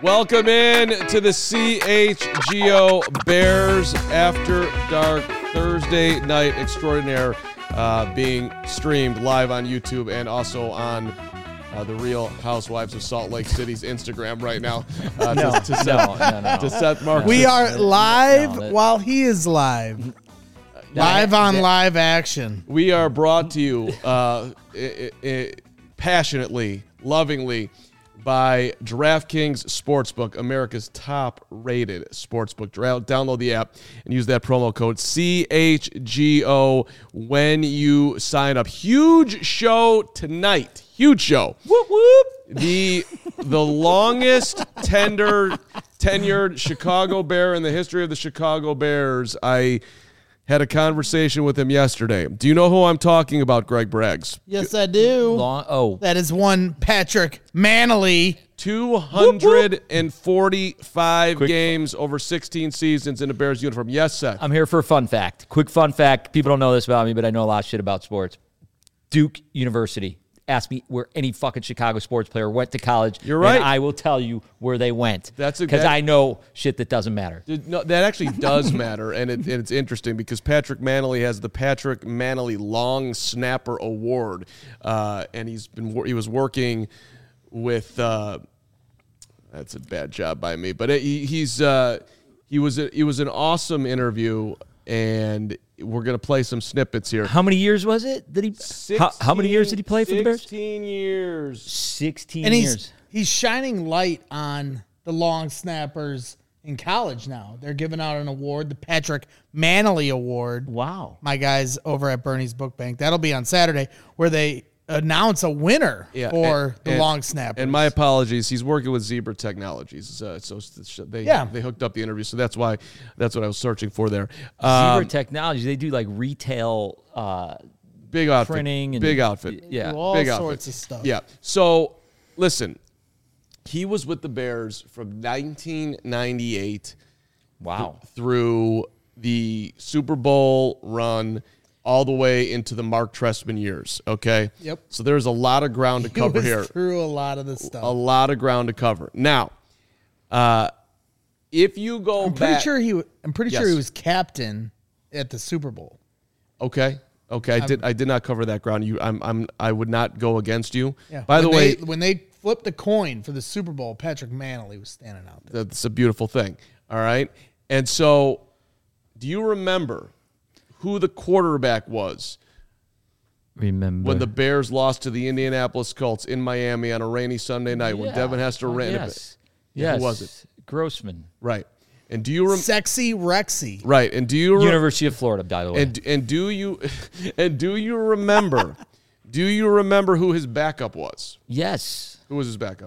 Welcome in to the CHGO Bears After Dark Thursday Night Extraordinaire, being streamed live on YouTube and also on the Real Housewives of Salt Lake City's Instagram right now. To Seth Marcus. We are live while he is live. Live on live action. We are brought to you passionately, lovingly, by DraftKings Sportsbook, America's top-rated sportsbook. Download the app and use that promo code CHGO when you sign up. Huge show tonight. Huge show. Whoop, whoop. The longest tenured Chicago Bear in the history of the Chicago Bears. I had a conversation with him yesterday. Do you know who I'm talking about, Greg Braggs? Yes, I do. That is one Patrick Mannelly. 245 games over 16 seasons in a Bears uniform. Yes, Seth. I'm here for a fun fact. Quick fun fact. People don't know this about me, but I know a lot of shit about sports. Duke University. Ask me where any fucking Chicago sports player went to college. You're right. And I will tell you where they went. Because I know shit that doesn't matter. No, that actually does matter, and it's interesting because Patrick Mannelly has the Patrick Mannelly Long Snapper Award, and he was working with. That's a bad job by me, but he was an awesome interview, and we're going to play some snippets here. How many years was it? How many years did he play for the Bears? 16 years. 16 years. He's shining light on the long snappers in college now. They're giving out an award, the Patrick Mannelly Award. Wow. My guys over at Bernie's Book Bank. That'll be on Saturday, where they announce a winner for the long snappers. And my apologies, he's working with Zebra Technologies, so they hooked up the interview. So that's what I was searching for there. Zebra Technologies, they do like retail, big outfit, printing, and big outfit, all big sorts outfit. of stuff. Yeah. So listen, he was with the Bears from 1998, through the Super Bowl run, all the way into the Mark Trestman years, okay? Yep. So there's a lot of ground to cover here. Through a lot of this stuff. A lot of ground to cover. Now, if you go back... I'm pretty sure he was captain at the Super Bowl. Okay. I did not cover that ground. I would not go against you. Yeah. By the way... When they flipped the coin for the Super Bowl, Patrick Mannelly was standing out there. That's a beautiful thing, all right? And so, do you remember who the quarterback was when the Bears lost to the Indianapolis Colts in Miami on a rainy Sunday night when Devin Hester ran it? Yes. Who was it? Grossman. Right. And do you Sexy Rexy. Right. And do you University of Florida, by the way. And do you remember who his backup was? Yes. Who was his backup?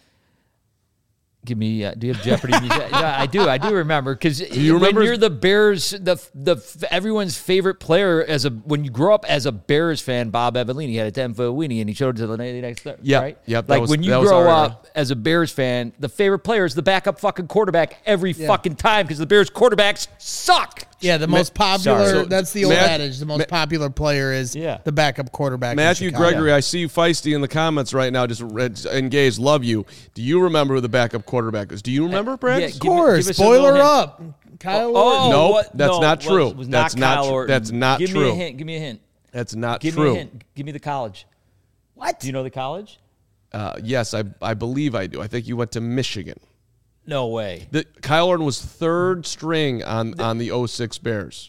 Give me. Do you have Jeopardy music? Yeah, I do. I do remember because when you're the Bears, everyone's favorite player when you grow up as a Bears fan, Bob Evelini, he had a 10-foot weenie and he showed it to the next. Yeah, right? Yep. Like when you grow up as a Bears fan, the favorite player is the backup fucking quarterback every fucking time because the Bears quarterbacks suck. Yeah, the most popular. That's the old adage. The most popular player is the backup quarterback. Matthew Gregory, I see you feisty in the comments right now. Just engaged. Love you. Do you remember who the backup quarterback is? Do you remember, Brad? Of course. Spoiler up. Kyle Orton. Nope, that's not true. That's not true. That's not true. Give me a hint. Give me a hint. That's not true. Give me a hint. Give me the college. What? Do you know the college? Yes, I believe I do. I think you went to Michigan. No way. Kyle Orton was third string on the 06 Bears.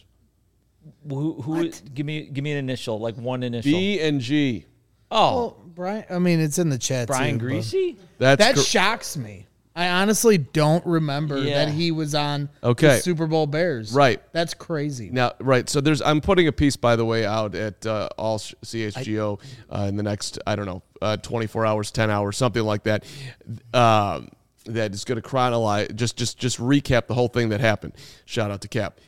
Who? Give me an initial, like one initial. B and G. Oh, well, Brian. I mean, it's in the chat. Brian too, Greasy. That shocks me. I honestly don't remember that he was on the Super Bowl Bears. Right. That's crazy. Now, right. So I'm putting a piece, by the way, out at all CHGO in the next 24 hours, 10 hours, something like that. That is going to chronologize, just recap the whole thing that happened. Shout out to Cap.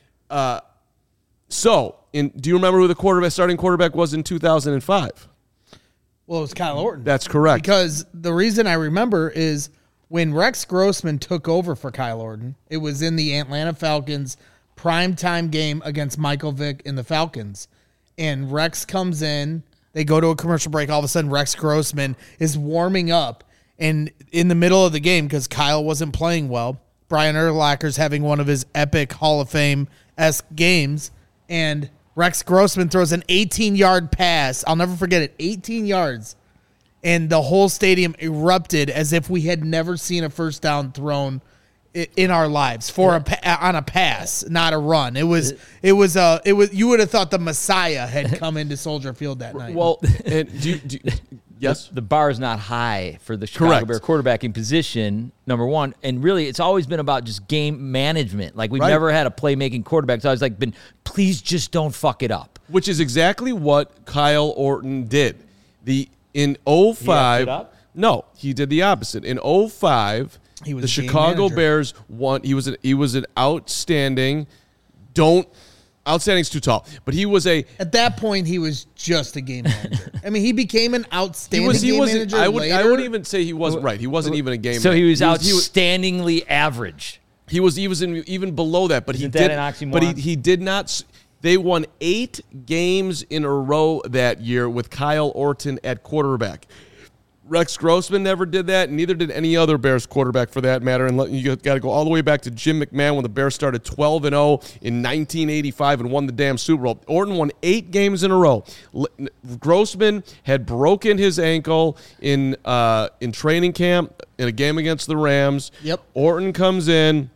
Do you remember who the starting quarterback was in 2005? Well, it was Kyle Orton. That's correct. Because the reason I remember is when Rex Grossman took over for Kyle Orton, it was in the Atlanta Falcons primetime game against Michael Vick and the Falcons. And Rex comes in, they go to a commercial break, all of a sudden Rex Grossman is warming up, And in the middle of the game, because Kyle wasn't playing well, Brian Urlacher's having one of his epic Hall of Fame-esque games, and Rex Grossman throws an 18-yard pass. I'll never forget it, 18 yards. And the whole stadium erupted as if we had never seen a first down thrown in our lives on a pass, not a run. It was you would have thought the Messiah had come into Soldier Field that night. Well, and yes, the bar is not high for the Chicago Bear quarterbacking position, number one. And really, it's always been about just game management. Like, we've never had a playmaking quarterback. It's always like please just don't fuck it up. Which is exactly what Kyle Orton did. In 05, no, he did the opposite. In 05, the Chicago Bears won. He was an outstanding. Outstanding's too tall, but he was at that point he was just a game manager. I mean, he became an outstanding game manager. I wouldn't even say he wasn't right. He wasn't even a game manager. So he was outstandingly average. He was even below that, but Isn't that an oxymoron? But he did not. They won 8 games in a row that year with Kyle Orton at quarterback. Rex Grossman never did that, and neither did any other Bears quarterback for that matter. And you got to go all the way back to Jim McMahon when the Bears started 12-0 in 1985 and won the damn Super Bowl. Orton won 8 games in a row. Grossman had broken his ankle in training camp in a game against the Rams. Yep. Orton comes in.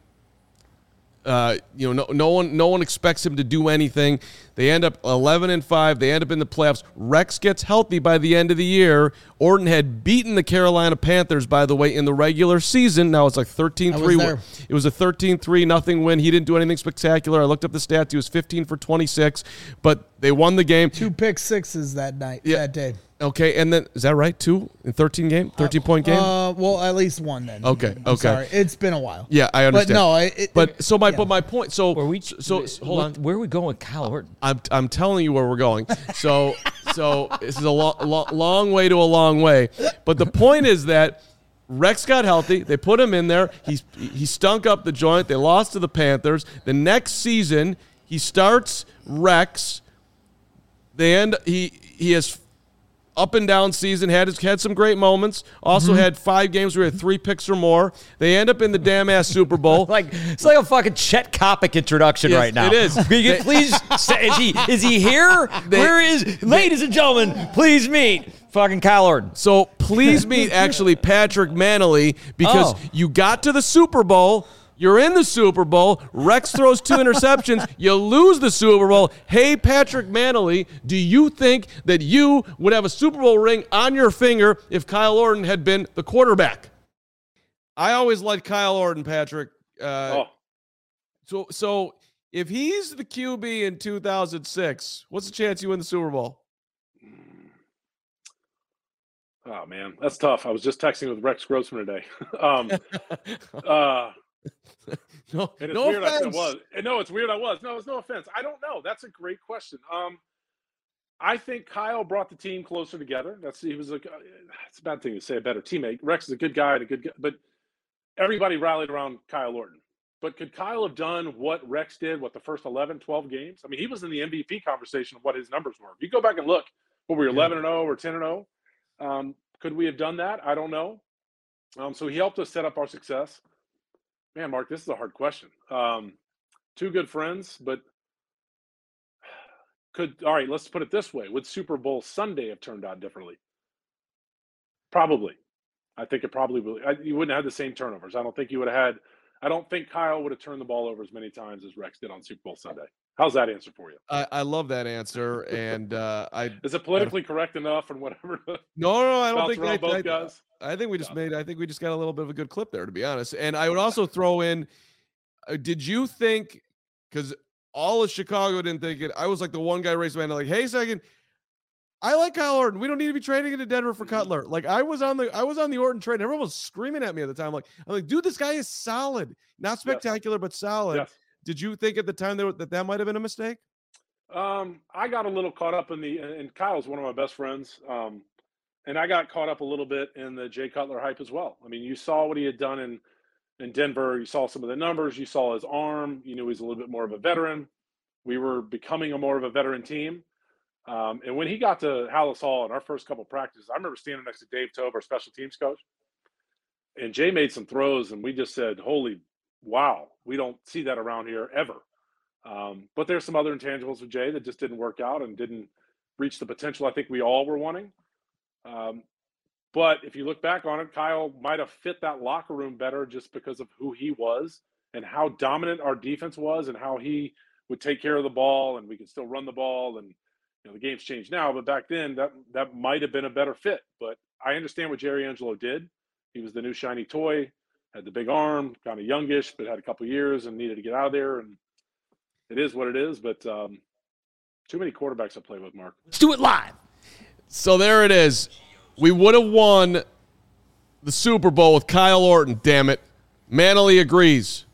No one expects him to do anything. They end up 11-5. They end up in the playoffs. Rex gets healthy by the end of the year. Orton had beaten the Carolina Panthers, by the way, in the regular season. Now it's like 13-3. It was a 13-3 win. He didn't do anything spectacular. I looked up the stats. He was 15 for 26, but they won the game. 2 pick sixes that day. Okay, and then is that right? 2 in 13-point game. Well, at least 1 then. Okay. Sorry, it's been a while. Yeah, I understand. But no, my point. So hold on. Where are we going with Kyle Orton? I'm telling you where we're going. So this is a long way to a long way. But the point is that Rex got healthy. They put him in there. He stunk up the joint. They lost to the Panthers. The next season he starts Rex. He has up and down season, had some great moments. Also had 5 games where he had 3 picks or more. They end up in the damn ass Super Bowl. It's like a fucking Chet Kopic introduction right now. It is. Please, is he here? Ladies and gentlemen, please meet fucking Kyle Orton. So please meet actually Patrick Mannelly, because you got to the Super Bowl. You're in the Super Bowl. Rex throws 2 interceptions. You lose the Super Bowl. Hey, Patrick Mannelly, do you think that you would have a Super Bowl ring on your finger if Kyle Orton had been the quarterback? I always liked Kyle Orton, Patrick. So if he's the QB in 2006, what's the chance you win the Super Bowl? Oh, man, that's tough. I was just texting with Rex Grossman today. No weird offense. I was. No, it's weird I was. No, it's no offense. I don't know. That's a great question. I think Kyle brought the team closer together. It's a bad thing to say, a better teammate. Rex is a good guy and a good guy, but everybody rallied around Kyle Orton. But could Kyle have done what Rex did, the first 11, 12 games? I mean, he was in the MVP conversation of what his numbers were. If you go back and look, we were 11-0 or 10-0. Could we have done that? I don't know. So he helped us set up our success. Man, Mark, this is a hard question. 2 good friends, but all right, let's put it this way. Would Super Bowl Sunday have turned out differently? Probably. I think it probably will. You wouldn't have had the same turnovers. I don't think Kyle would have turned the ball over as many times as Rex did on Super Bowl Sunday. How's that answer for you? I love that answer, and is it politically correct enough and whatever? No, I don't think both guys. I think we just got a little bit of a good clip there, to be honest. And I would also throw in, did you think, because all of Chicago didn't think it, I was like the one guy raised my hand like, hey, second, I like Kyle Orton. We don't need to be trading into Denver for Cutler. Like I was on the Orton trade. And everyone was screaming at me at the time. I'm like, dude, this guy is solid, not spectacular, but solid. Yes. Did you think at the time that might have been a mistake? I got a little caught up and Kyle's one of my best friends. And I got caught up a little bit in the Jay Cutler hype as well. I mean, you saw what he had done in Denver. You saw some of the numbers. You saw his arm. You knew he's a little bit more of a veteran. We were becoming more of a veteran team. And when he got to Hallis Hall in our first couple practices, I remember standing next to Dave Tobe, our special teams coach. And Jay made some throws, and we just said, holy, wow, we don't see that around here ever. But there's some other intangibles with Jay that just didn't work out and didn't reach the potential I think we all were wanting. But if you look back on it, Kyle might have fit that locker room better just because of who he was and how dominant our defense was and how he would take care of the ball, and we could still run the ball. And the game's changed now, but back then that might have been a better fit. But I understand what Jerry Angelo did. He was the new shiny toy, had the big arm, kind of youngish, but had a couple years and needed to get out of there. And it is what it is. But too many quarterbacks to play with, Mark. Let's do it live. So there it is. We would have won the Super Bowl with Kyle Orton. Damn it, Manley agrees.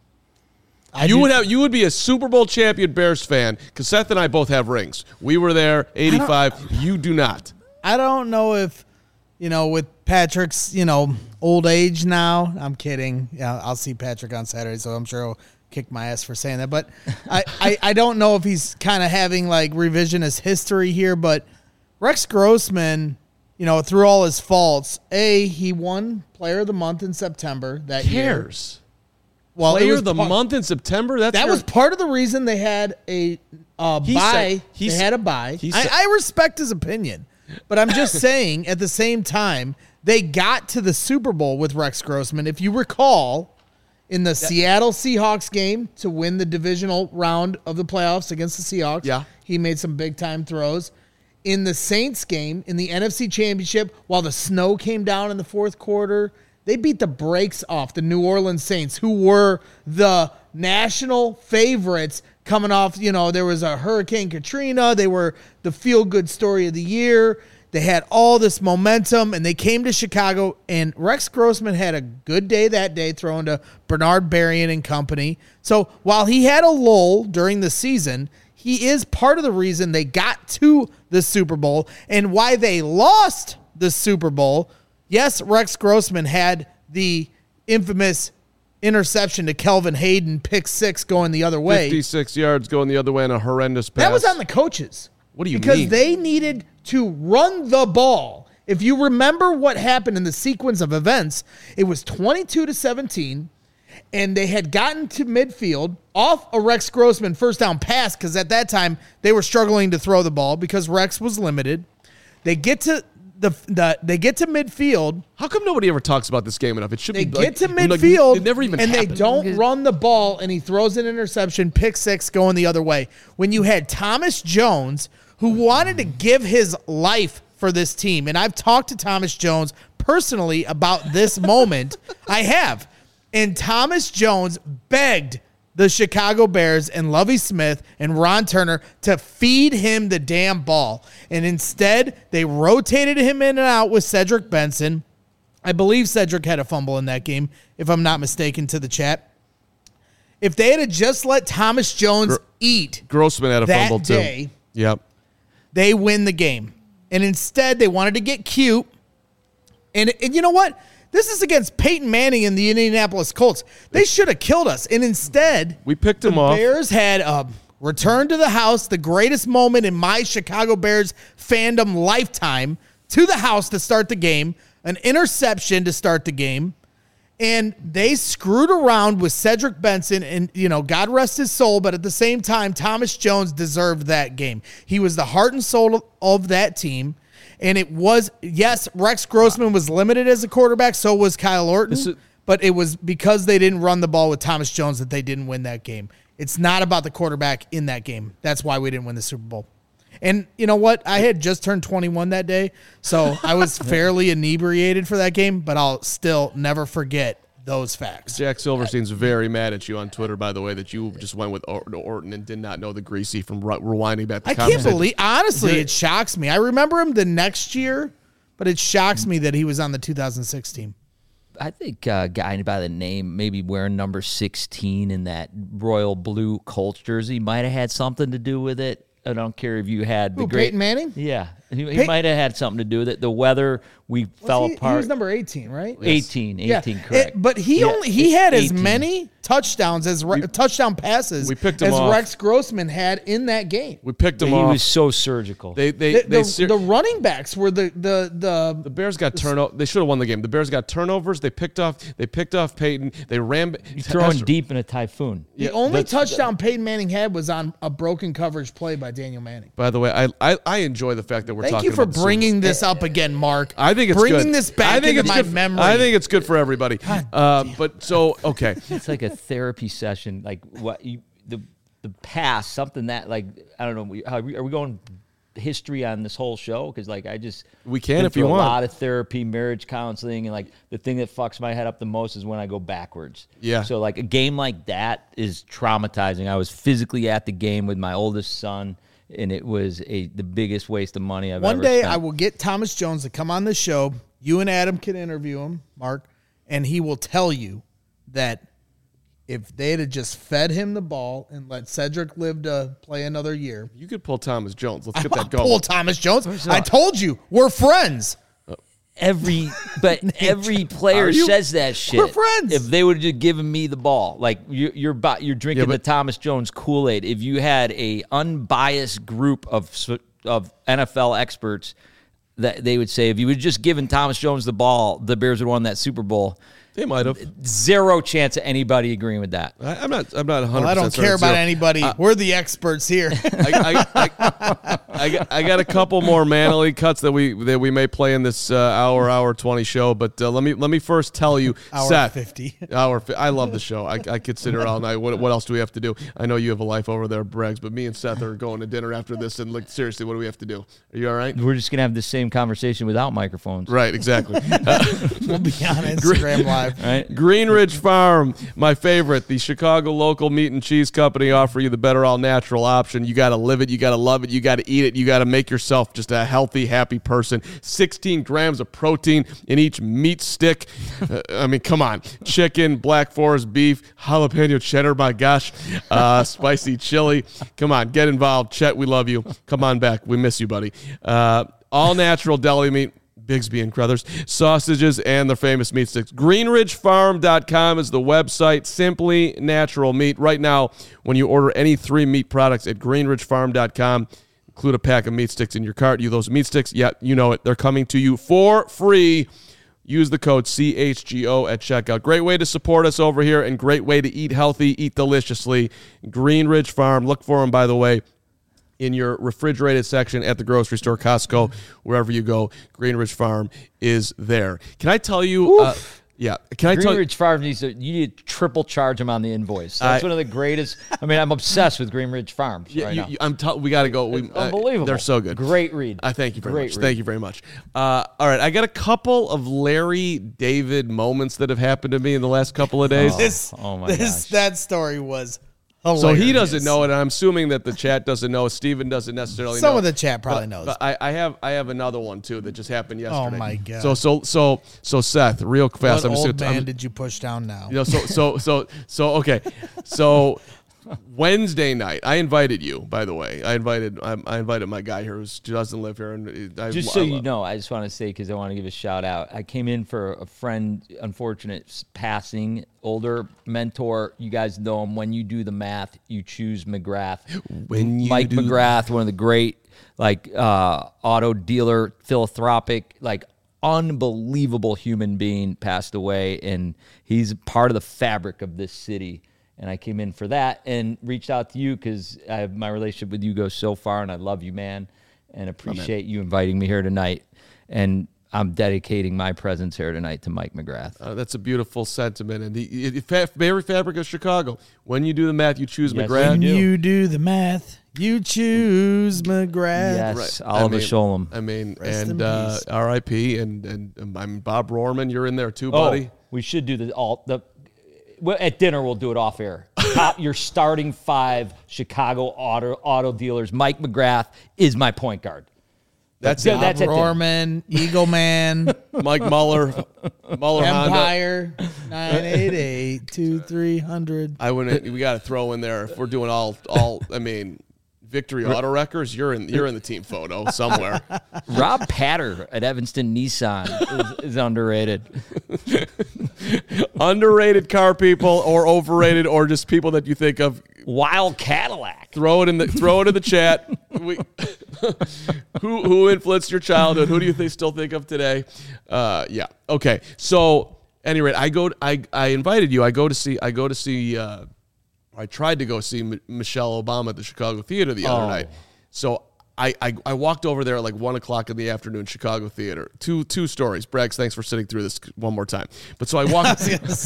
You would be a Super Bowl champion Bears fan because Seth and I both have rings. We were there, 85. You do not. I don't know if, with Patrick's, old age now. I'm kidding. Yeah, I'll see Patrick on Saturday, so I'm sure he'll kick my ass for saying that. But I don't know if he's kind of having like revisionist history here. But Rex Grossman, through all his faults, he won Player of the Month in September that year. Well, Player of the month in September? That was part of the reason they had a bye. They had a bye. I respect his opinion, but I'm just saying at the same time, they got to the Super Bowl with Rex Grossman. If you recall, in the Seattle Seahawks game to win the divisional round of the playoffs against the Seahawks, he made some big-time throws. In the Saints game, in the NFC Championship, while the snow came down in the fourth quarter, they beat the brakes off the New Orleans Saints, who were the national favorites coming off. There was a Hurricane Katrina. They were the feel-good story of the year. They had all this momentum, and they came to Chicago, and Rex Grossman had a good day that day throwing to Bernard Berrien and company. So while he had a lull during the season, he is part of the reason they got to the Super Bowl and why they lost the Super Bowl. Yes, Rex Grossman had the infamous interception to Kelvin Hayden, pick six going the other way. 56 yards going the other way and a horrendous pass. That was on the coaches. What do you mean? Because they needed to run the ball. If you remember what happened in the sequence of events, it was 22-17, and they had gotten to midfield off a Rex Grossman first down pass because at that time they were struggling to throw the ball because Rex was limited. They get to they get to midfield. How come nobody ever talks about this game enough? It should be. They get to midfield, it never even and happened. They don't run the ball, and he throws an interception, pick six, going the other way. When you had Thomas Jones, who wanted to give his life for this team, and I've talked to Thomas Jones personally about this moment. I have, and Thomas Jones begged the Chicago Bears and Lovie Smith and Ron Turner to feed him the damn ball. And instead, they rotated him in and out with Cedric Benson. I believe Cedric had a fumble in that game, if I'm not mistaken, to the chat. If they had just let Thomas Jones eat Grossman had a fumble day, too. Yep. They win the game. And instead, they wanted to get cute. And you know what? This is against Peyton Manning and the Indianapolis Colts. They should have killed us. And instead, we picked them off. The Bears had a return to the house, the greatest moment in my Chicago Bears fandom lifetime, to the house to start the game, an interception to start the game. And they screwed around with Cedric Benson, and, God rest his soul, but at the same time, Thomas Jones deserved that game. He was the heart and soul of that team. And it was, yes, Rex Grossman was limited as a quarterback, so was Kyle Orton, but it was because they didn't run the ball with Thomas Jones that they didn't win that game. It's not about the quarterback in that game. That's why we didn't win the Super Bowl. And you know what? I had just turned 21 that day, so I was fairly inebriated for that game, but I'll still never forget those facts. Jack Silverstein's very mad at you on Twitter, by the way, that you just went with Orton and did not know the greasy from rewinding back the conversation. I can't believe, honestly, it shocks me. I remember him the next year, but it shocks me that he was on the 2006 team. I think a guy by the name, maybe wearing number 16 in that royal blue Colts jersey, might have had something to do with it. I don't care if you had the great Peyton Manning? Yeah. He might have had something to do with it. The weather, we fell apart. He was number 18, right? 18, Yeah. correct. But he had 18. As many touchdowns as touchdown passes as Rex Grossman had in that game. We picked him off. He was so surgical. The running backs were the Bears got turnover. They should have won the game. The Bears got turnovers. They picked off Peyton. They ran. You're throwing deep in a typhoon. The only touchdown Peyton Manning had was on a broken coverage play by Daniel Manning. By the way, I enjoy the fact that we're talking about Thank you for bringing this up again, Mark. I think it's bringing good. this back into my memory. I think it's good for everybody. Okay. It's like a therapy session. Like the past, something that like I don't know. Are we going history on this whole show? Because like we can if you want. A lot of therapy, marriage counseling, and like the thing that fucks my head up the most is when I go backwards. Yeah. So like a game like that is traumatizing. I was physically at the game with my oldest son, and it was the biggest waste of money I've ever spent. One day I will get Thomas Jones to come on the show. You and Adam can interview him, Mark, and he will tell you that if they had just fed him the ball and let Cedric live to play another year. You could pull Thomas Jones. Let's get that going. Pull Thomas Jones. I told you, we're friends. Every player says that shit. We're friends. If they would have just given me the ball, like you're drinking the Thomas Jones Kool-Aid. If you had a unbiased group of NFL experts, that they would say if you would just given Thomas Jones the ball, the Bears would have won that Super Bowl. They might have. Zero chance of anybody agreeing with that. I'm not 100%. Well, I don't care about anybody. We're the experts here. I got a couple more Manly cuts that we may play in this hour 20 show, but let me first tell you, Seth. 50. I love the show. I could sit here all night. What else do we have to do? I know you have a life over there, Braggs, but me and Seth are going to dinner after this. And like seriously, what do we have to do? Are you all right? We're just gonna have the same conversation without microphones. Right. Exactly. We'll be on Instagram Live. Right. Greenridge Farm, my favorite, the Chicago local meat and cheese company, offer you the better all natural option. You got to live it, you got to love it, you got to eat it, you got to make yourself just a healthy, happy person. 16 grams of protein in each meat stick. I mean, come on. Chicken, Black Forest beef, jalapeno cheddar, my gosh, spicy chili. Come on, get involved. Chet, we love you. Come on back. We miss you, buddy. All natural deli meat. Bigsby and Crothers, sausages, and their famous meat sticks. GreenridgeFarm.com is the website. Simply natural meat. Right now, when you order any 3 meat products at GreenridgeFarm.com, include a pack of meat sticks in your cart. Those meat sticks, yeah, you know it. They're coming to you for free. Use the code CHGO at checkout. Great way to support us over here and great way to eat healthy, eat deliciously. Greenridge Farm. Look for them, by the way, in your refrigerated section at the grocery store, Costco, wherever you go. Greenridge Farm is there. Can I tell you? Yeah. Can I tell you? Greenridge Farm you need to triple charge them on the invoice. That's one of the greatest. I mean, I'm obsessed with Greenridge Farms right now. We got to go. Unbelievable. They're so good. Great read. Thank you very much. Thank you very much. All right. I got a couple of Larry David moments that have happened to me in the last couple of days. That story was hilarious. So he doesn't know it, and I'm assuming that the chat doesn't know. Steven doesn't necessarily know. Some of the chat probably knows. But I have another one too that just happened yesterday. Oh my god! So Seth, real fast. What old man did you push down now? Okay. So Wednesday night, I invited you. By the way, I invited my guy here who doesn't live here, and just so you know, I just want to say because I want to give a shout out. I came in for a friend, unfortunate passing, older mentor. You guys know him. When you do the math, you choose McGrath. Mike McGrath, one of the great auto dealer, philanthropic, unbelievable human being, passed away, and he's part of the fabric of this city. And I came in for that and reached out to you because my relationship with you goes so far, and I love you, man, and appreciate you inviting me here tonight. And I'm dedicating my presence here tonight to Mike McGrath. That's a beautiful sentiment. And the very fabric of Chicago. When you do the math, you choose McGrath. When you do the math, you choose McGrath. Yes, right. Oliver Sholem. I mean, and R.I.P. And I'm Bob Rohrman. You're in there too, buddy. We should do at dinner, we'll do it off air. Your starting 5 Chicago auto dealers. Mike McGrath is my point guard. That's Rohrman, Eagle Man, Mike Muller Empire, 988-2300. We got to throw in there if we're doing all. I mean, Victory Auto Wreckers, you're in the team photo somewhere. Rob Patter at Evanston Nissan is underrated. Underrated car people, or overrated, or just people that you think of. Wild Cadillac. Throw it in the chat. Who influenced your childhood? Who do you still think of today? Yeah. Okay. So, at any rate, I invited you. I tried to go see Michelle Obama at the Chicago Theater the other night. So I walked over there at like 1 o'clock in the afternoon, Chicago Theater. Two stories. Braggs, thanks for sitting through this one more time. But so I walked.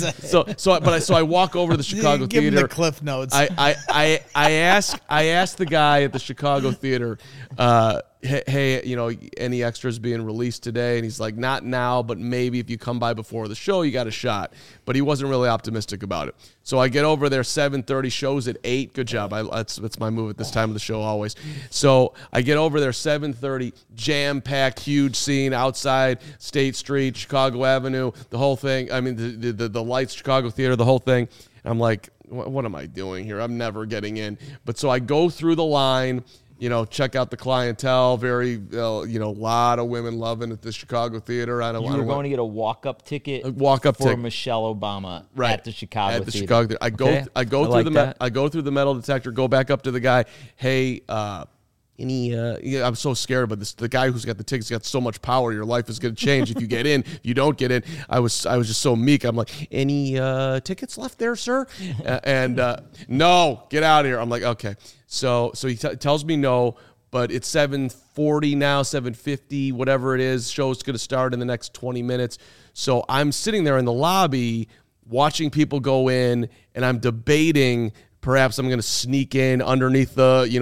So I walk over to the Chicago Give Theater. him the Cliff Notes. I asked the guy at the Chicago Theater, hey, any extras being released today? And he's like, not now, but maybe if you come by before the show, you got a shot. But he wasn't really optimistic about it. So I get over there, 7:30, shows at 8. Good job. That's my move at this time of the show always. So I get over there, 7:30, jam-packed, huge scene outside State Street, Chicago Avenue, the whole thing. I mean, the lights, Chicago Theater, the whole thing. I'm like, what am I doing here? I'm never getting in. But so I go through the line, check out the clientele. Very, lot of women loving at the Chicago Theater. You were going to get a walk-up ticket for Michelle Obama at the Chicago Theater. Chicago Theater. I go through the metal detector, go back up to the guy. Hey, I'm so scared about this. The guy who's got the tickets got so much power. Your life is going to change if you get in. If you don't get in, I was just so meek. I'm like, any tickets left there, sir? No, get out of here. I'm like, okay. So he tells me no, but it's 7:40 now, 7:50, whatever it is. Show's going to start in the next 20 minutes. So I'm sitting there in the lobby watching people go in, and I'm debating. Perhaps I'm going to sneak in underneath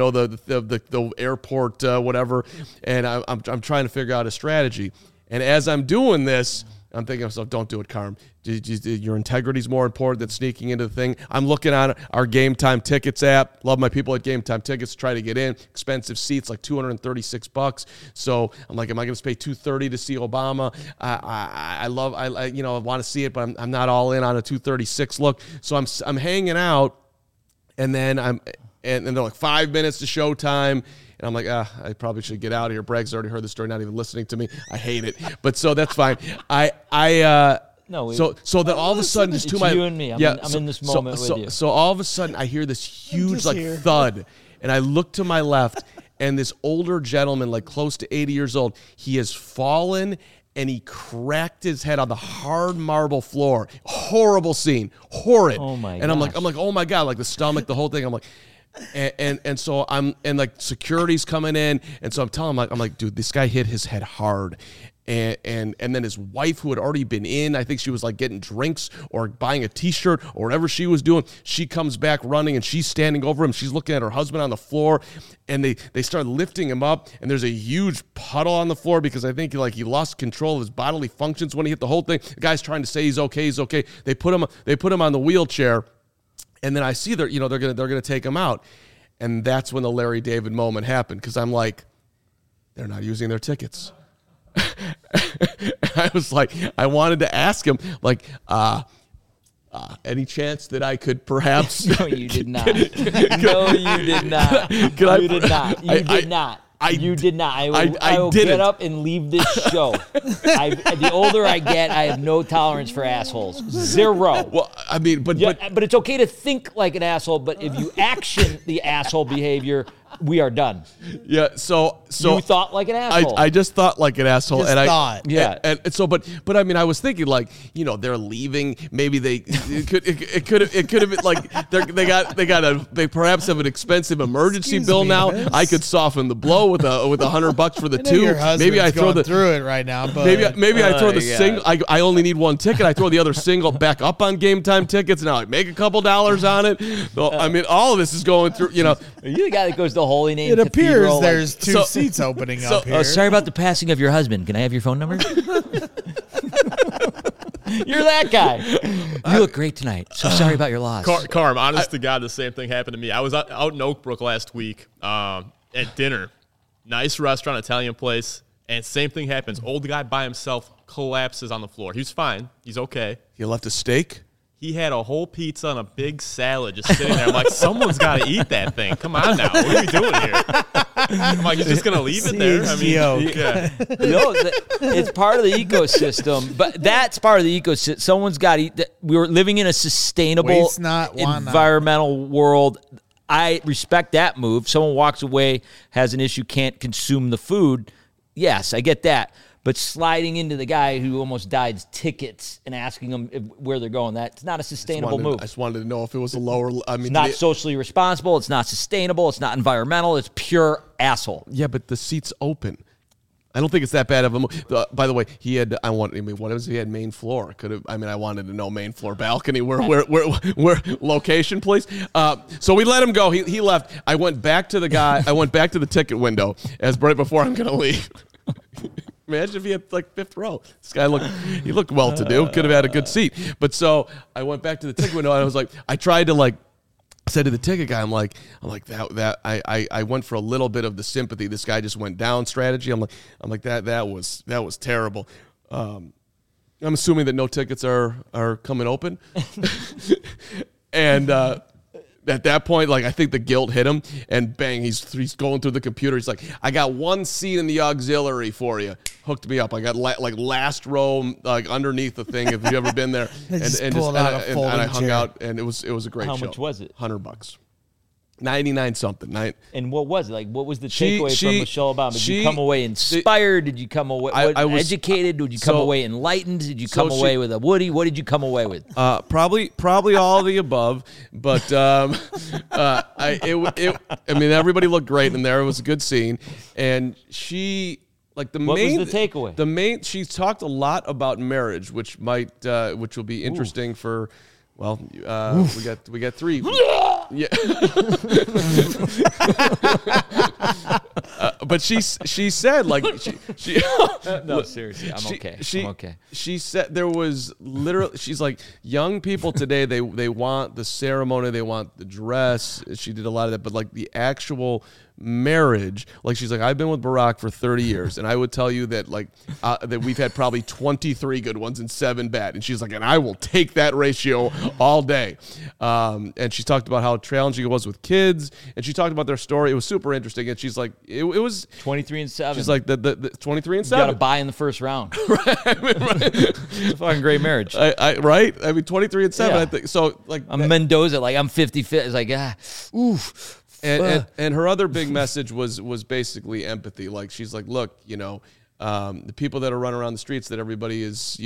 the airport, whatever, and I'm trying to figure out a strategy. And as I'm doing this, I'm thinking to myself, don't do it, Carm. Your integrity is more important than sneaking into the thing. I'm looking on our Game Time Tickets app. Love my people at Game Time Tickets. Try to get in. Expensive seats, like $236. So I'm like, am I going to pay $230 to see Obama? I want to see it, but I'm not all in on a $236 look. So I'm hanging out. And then and they're like 5 minutes to showtime. And I'm like, I probably should get out of here. Bragg's already heard the story, not even listening to me. I hate it. But so that's fine. So then all of a sudden, just to my you and me. I'm in this moment with you. So all of a sudden, I hear this huge thud, and I look to my left, and this older gentleman, like close to 80 years old, he has fallen. And he cracked his head on the hard marble floor. Horrible scene. Horrid. Oh my! And I'm like, oh my God, like the stomach, the whole thing. I'm like, and so like security's coming in, and so I'm telling him, I'm like, dude, this guy hit his head hard. And then his wife, who had already been in, I think she was like getting drinks or buying a T-shirt or whatever she was doing. She comes back running, and she's standing over him. She's looking at her husband on the floor, and they start lifting him up. And there's a huge puddle on the floor because I think he lost control of his bodily functions when he hit the whole thing. The guy's trying to say he's okay. They put him on the wheelchair, and then I see they're gonna take him out, and that's when the Larry David moment happened because I'm like, they're not using their tickets. I was like, I wanted to ask him, like, any chance that I could perhaps? No, you did not. No, you did not. You did not. You did not. I will get up and leave this show. The older I get, I have no tolerance for assholes. Zero. Well, I mean, but it's okay to think like an asshole, but if you action the asshole behavior, we are done. Yeah. So you thought like an asshole. I just thought like an asshole, Yeah. And so, but I mean, I was thinking like, they're leaving. Maybe it could have been like they perhaps have an expensive emergency bill now. I could soften the blow with $100 for the two. Maybe I throw through it right now. But maybe I throw the single. I only need one ticket. I throw the other single back up on Game Time Tickets. Now I make a couple dollars on it. So, I mean, all of this is going through. You're the guy that goes to Holy Name. It appears there's two seats opening up here. Sorry about the passing of your husband. Can I have your phone number? You're that guy. You look great tonight. So sorry about your loss. Carm, honest to God, the same thing happened to me. I was out in Oak Brook last week at dinner. Nice restaurant, Italian place. And same thing happens. Old guy by himself collapses on the floor. He's fine. He's okay. He left a steak? He had a whole pizza and a big salad just sitting there. I'm like, someone's got to eat that thing. Come on now. What are we doing here? I'm like, he's just going to leave it there? I mean, yeah. It's part of the ecosystem, but that's part of the ecosystem. Someone's got to eat that. We were living in a sustainable environmental world. I respect that move. Someone walks away, has an issue, can't consume the food. Yes, I get that. But sliding into the guy who almost died's tickets and asking them where they're going, that's not a sustainable move. I just wanted to know if it was a lower. I mean, it's not socially responsible. It's not sustainable. It's not environmental. It's pure asshole. Yeah, but the seat's open. I don't think it's that bad of a move. By the way, he had. What was he had main floor? Could have. I mean, I wanted to know main floor balcony. Where location, please. So we let him go. He left. I went back to the guy. I went back to the ticket window as right before I'm going to leave. Imagine if he had like fifth row. This guy looked well-to-do. Could have had a good seat. But so I went back to the ticket window and I was like, I tried to said to the ticket guy, I'm like I went for a little bit of the sympathy. This guy just went down strategy. I'm like that was terrible. I'm assuming that no tickets are coming open, and. At that point, I think the guilt hit him, and bang, he's going through the computer. He's like, I got one seat in the auxiliary for you. Hooked me up. I got last row, underneath the thing. If you've ever been there, and I hung out, and it was a great show. How much was it? $100. 99 something. And what was it? What was the takeaway from Michelle Obama? Did you come away inspired? Did you come away educated? Did you come away enlightened? Did you come away with a Woody? What did you come away with? Probably all of the above. But I mean, everybody looked great in there. It was a good scene, and she. What was the takeaway? She talked a lot about marriage, which will be interesting for. Well, we got three. Yeah. But she said she no, seriously, I'm okay. She said there was literally, she's like, young people today, they want the ceremony, they want the dress. She did a lot of that, but the actual marriage, she's like, I've been with Barack for 30 years, and I would tell you that that we've had probably 23 good ones and 7 bad. And she's like, and I will take that ratio all day. And she talked about how challenging it was with kids, and she talked about their story. It was super interesting, and she's like, it was 23-7. She's like, the 23-7. You got to buy in the first round. Right. It's a fucking great marriage. Right? I mean, 23-7. Yeah. I think so. I'm Mendoza. I'm 50-50. It's oof. And her other big message was basically empathy. She's like, look, the people that are running around the streets that everybody is,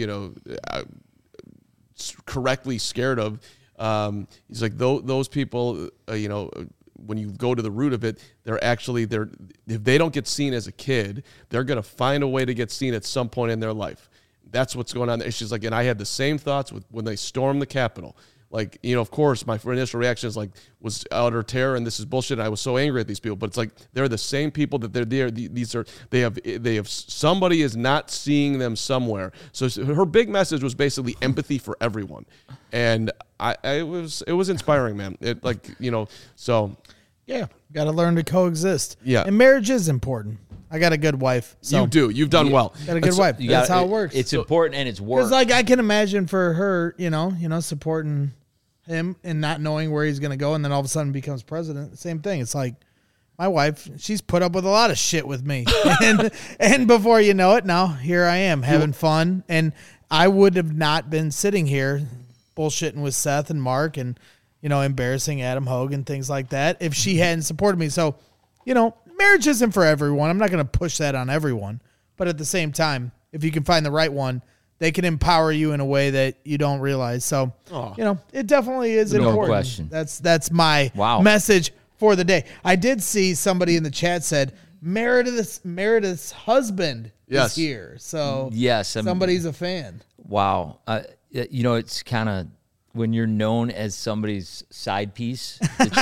correctly scared of. He's like, those people, when you go to the root of it, if they don't get seen as a kid, they're going to find a way to get seen at some point in their life. That's what's going on there. She's like, and I had the same thoughts when they stormed the Capitol. Of course, my initial reaction was utter terror, and this is bullshit. And I was so angry at these people, but it's they're the same people that they're there. They have somebody is not seeing them somewhere. So her big message was basically empathy for everyone, and it was inspiring, man. So yeah, got to learn to coexist. Yeah, and marriage is important. I got a good wife. So you do. You've done well. Got a good wife. That's how it works. It's important, and it's work. Because I can imagine for her, supporting him and not knowing where he's going to go, and then all of a sudden becomes president. Same thing. It's like my wife, she's put up with a lot of shit with me. and before you know it, now here I am having fun. And I would have not been sitting here bullshitting with Seth and Mark and, embarrassing Adam Hogue and things like that if she hadn't supported me. So, marriage isn't for everyone. I'm not going to push that on everyone. But at the same time, if you can find the right one, they can empower you in a way that you don't realize. So, it definitely is important. No question. That's my message for the day. I did see somebody in the chat said Meredith's husband is here. So yes, somebody's a fan. Wow. It's kind of when you're known as somebody's side piece.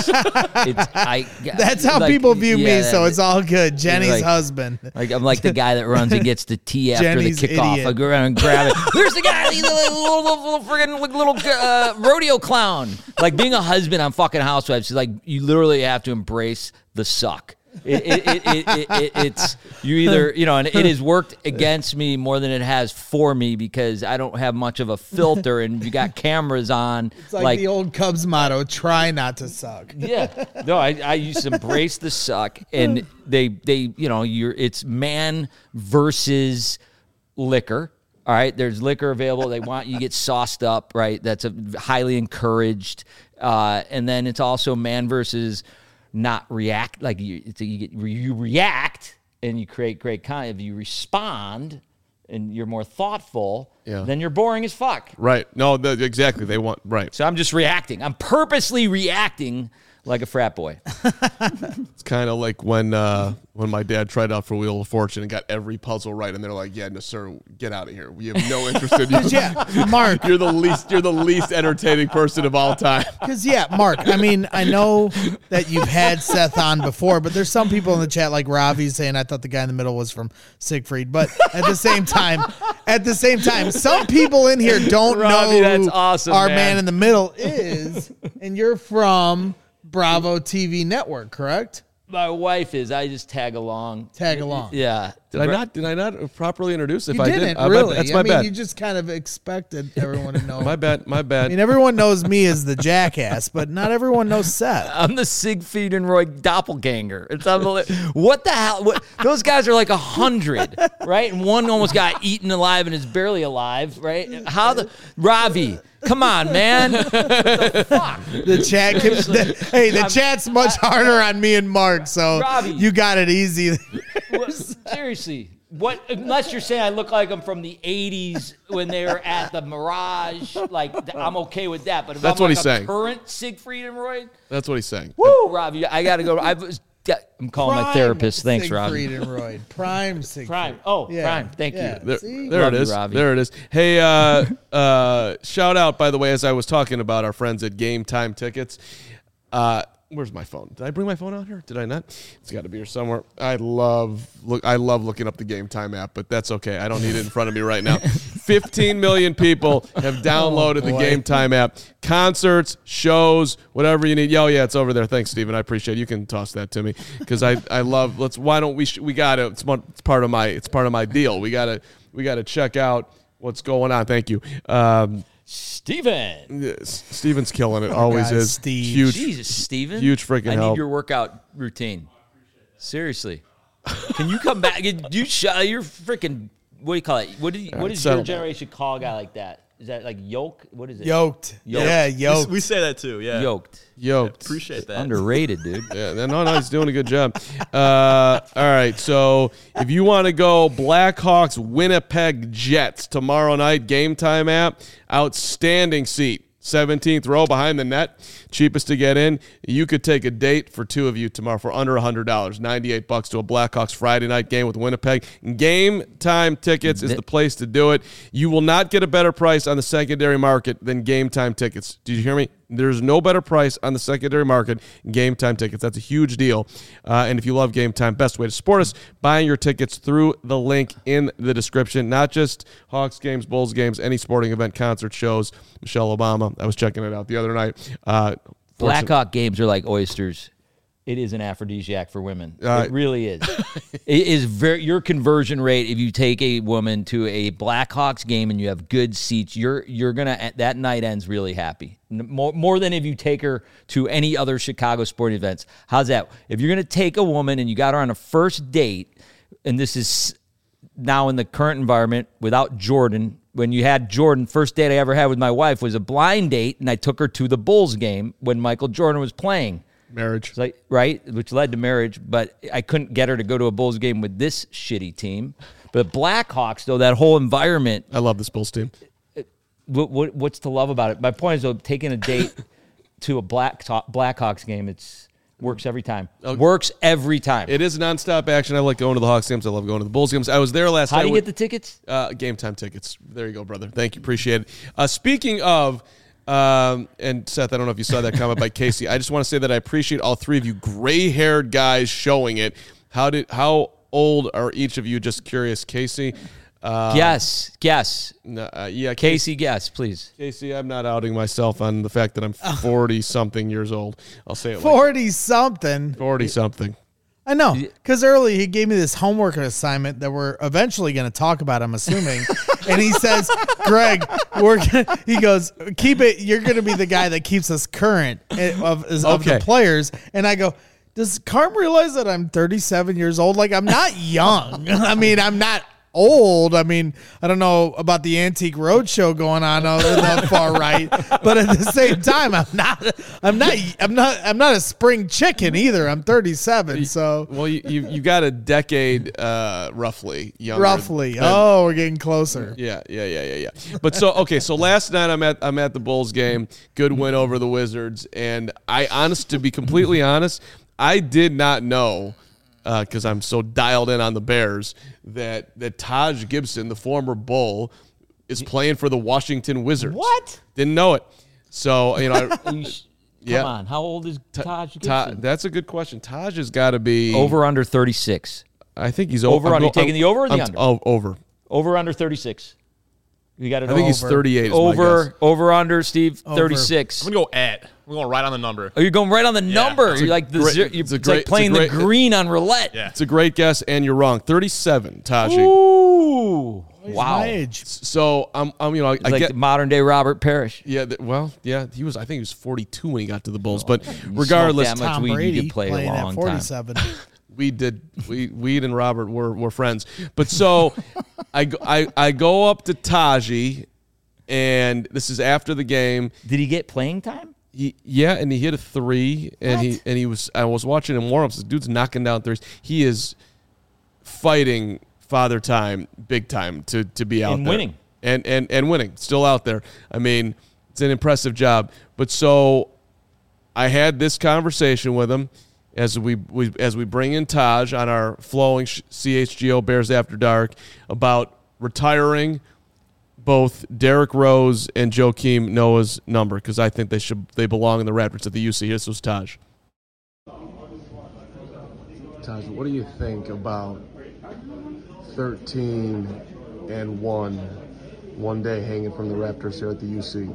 That's how people view me, so it's all good. Jenny's husband. I'm like the guy that runs and gets the tea after Jenny's the kickoff. Idiot. I go around and grab it. There's the guy, the little friggin' rodeo clown. Being a husband on fucking Housewives is you literally have to embrace the suck. It's you either, and it has worked against me more than it has for me because I don't have much of a filter and you got cameras on. It's like the old Cubs motto, try not to suck. Yeah. No, I used to embrace the suck, and they it's man versus liquor. All right, there's liquor available. They want you to get sauced up, right? That's highly encouraged. And then it's also man versus not react. Like you react and you create great content. If you respond and you're more thoughtful, then you're boring as fuck. Right. No, exactly. They want, right. So I'm just reacting. I'm purposely reacting like a frat boy. It's kind of like when my dad tried out for Wheel of Fortune and got every puzzle right, and they're like, "Yeah, no, sir, get out of here. We have no interest in you." Yeah, Mark, you're the least entertaining person of all time. Because Mark, I mean, I know that you've had Seth on before, but there's some people in the chat like Ravi saying I thought the guy in the middle was from Siegfried, but at the same time, some people in here don't know that's awesome, our man in the middle is, and you're from Bravo TV network, correct? My wife is. I just tag along. Yeah. Did I not properly introduce? If you I didn't, did, really. That's my bad. You just kind of expected everyone to know. My bad. I mean, everyone knows me as the jackass, but not everyone knows Seth. I'm the Siegfried and Roy doppelganger. It's unbelievable. What the hell? Those guys are like 100, right? And one almost got eaten alive and is barely alive, right? Ravi? Come on, man. What the fuck? The chat's much harder on me and Mark, so Ravi, you got it easy. Seriously. What? Unless you're saying I look like I'm from the 80s when they were at the Mirage, like I'm okay with that. But if that's I'm what like he's saying. Current Siegfried and Roy, that's what he's saying. Woo, Robbie, I gotta go. I'm calling my therapist. Thanks, Robbie. Siegfried and Roy. Prime Siegfried. Prime. Oh, yeah. Prime. Thank you. There it is. Robbie. There it is. Hey, shout out, by the way, as I was talking about our friends at Game Time Tickets. Where's my phone? Did I bring my phone out here? Did I not? It's got to be here somewhere. I love looking up the Game Time app, but that's okay. I don't need it in front of me right now. 15 million people have downloaded the Game Time app. Concerts, shows, whatever you need. Oh yeah, it's over there. Thanks, Steven. I appreciate it. You can toss that to me because I love. Why don't we gotta? It's part of my deal. We gotta check out what's going on. Thank you. Steven. Yes, Steven's killing it. Always is. Steve. Huge. Jesus, Steven. Huge freaking help. I need your workout routine. Seriously. Can you come back? You're freaking, what do you call it? What does your generation call a guy like that? Is that like yoke? What is it? Yoked. Yeah, yoked. We say that too, yeah. Yoked. Appreciate that. Underrated, dude. Yeah, no, he's doing a good job. All right, so if you want to go Blackhawks Winnipeg Jets tomorrow night, Game Time app, outstanding seat. 17th row behind the net, cheapest to get in. You could take a date for two of you tomorrow for under $100, $98 to a Blackhawks Friday night game with Winnipeg. Game Time tickets is the place to do it. You will not get a better price on the secondary market than Game Time tickets. Did you hear me? There's no better price on the secondary market than Game Time tickets. That's a huge deal. And if you love Game Time, best way to support us, buying your tickets through the link in the description. Not just Hawks games, Bulls games, any sporting event, concert, shows. Michelle Obama. I was checking it out the other night. Blackhawk games are like oysters. It is an aphrodisiac for women. It really is. It is your conversion rate. If you take a woman to a Blackhawks game and you have good seats, you're gonna, that night ends really happy. More than if you take her to any other Chicago sporting events. How's that? If you're gonna take a woman and you got her on a first date, and this is now in the current environment without Jordan. When you had Jordan, first date I ever had with my wife was a blind date, and I took her to the Bulls game when Michael Jordan was playing. Marriage. Right? Which led to marriage, but I couldn't get her to go to a Bulls game with this shitty team. But Blackhawks, though, that whole environment. I love this Bulls team. What's to love about it? My point is, though, taking a date to a Blackhawks game, works every time. Okay. Works every time. It is nonstop action. I like going to the Hawks games. I love going to the Bulls games. I was there last night. How do you get the tickets? Game Time tickets. There you go, brother. Thank you. Appreciate it. Speaking of... and Seth, I don't know if you saw that comment by Casey. I just want to say that I appreciate all three of you gray-haired guys showing it. How old are each of you? Just curious, Casey. Guess. Yeah, Casey, guess, please. Casey, I'm not outing myself on the fact that I'm 40-something years old. I'll say it 40-something. 40-something. I know, because early he gave me this homework assignment that we're eventually going to talk about, I'm assuming. And he says, Greg, he goes, keep it. You're going to be the guy that keeps us current of the players. And I go, does Carm realize that I'm 37 years old? Like, I'm not young. I mean, I'm not old. I mean, I don't know about the Antique Roadshow going on the far right, but at the same time, I'm not a spring chicken either. I'm 37, so well, you got a decade roughly younger. Roughly. We're getting closer. Yeah. But so last night I'm at the Bulls game. Good win over the Wizards, and to be completely honest, I did not know. Because I'm so dialed in on the Bears, that Taj Gibson, the former Bull, is playing for the Washington Wizards. What? Didn't know it. So, Come on. How old is Taj Gibson? That's a good question. Taj has got to be... Over under 36. I think he's over. Are you taking the over or the under? Oh, over. Over under 36. You got it. I think he's 38. Over under, Steve. 36. I'm gonna go at. We're going right on the number. Oh, you're going right on the number. You're like like playing the green on roulette. Yeah. It's a great guess, and you're wrong. 37, Taji. Ooh, wow. My age. So I'm I like get modern day Robert Parrish. Yeah, he was. I think he was 42 when he got to the Bulls. But regardless, that much weed, you could play a long at 47. time. Weed and Robert were friends. But so I go up to Taji, and this is after the game. Did he get playing time? And he hit a three, and I was watching him warm up. This dude's knocking down threes. He is fighting Father Time big time to be out there. Winning. And winning. Still out there. I mean, it's an impressive job. But so I had this conversation with him as we bring in Taj on our flowing CHGO Bears After Dark about retiring both Derrick Rose and Joakim Noah's number, because I think they belong in the Raptors at the UC. This was Taj. Taj, what do you think about 13-1 one day hanging from the Raptors here at the UC?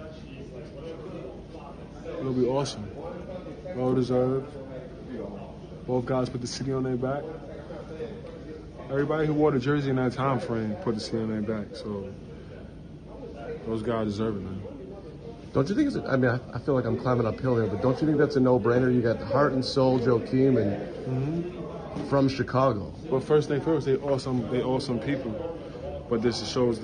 It'll be awesome. Well deserved. Both guys put the city on their back. Everybody who wore the jersey in that time frame put the city on their back. So those guys deserve it, man. Don't you think I feel like I'm climbing uphill here, but don't you think that's a no-brainer? You got heart and soul Joakim and from Chicago. Well, first thing first, they awesome people. But this shows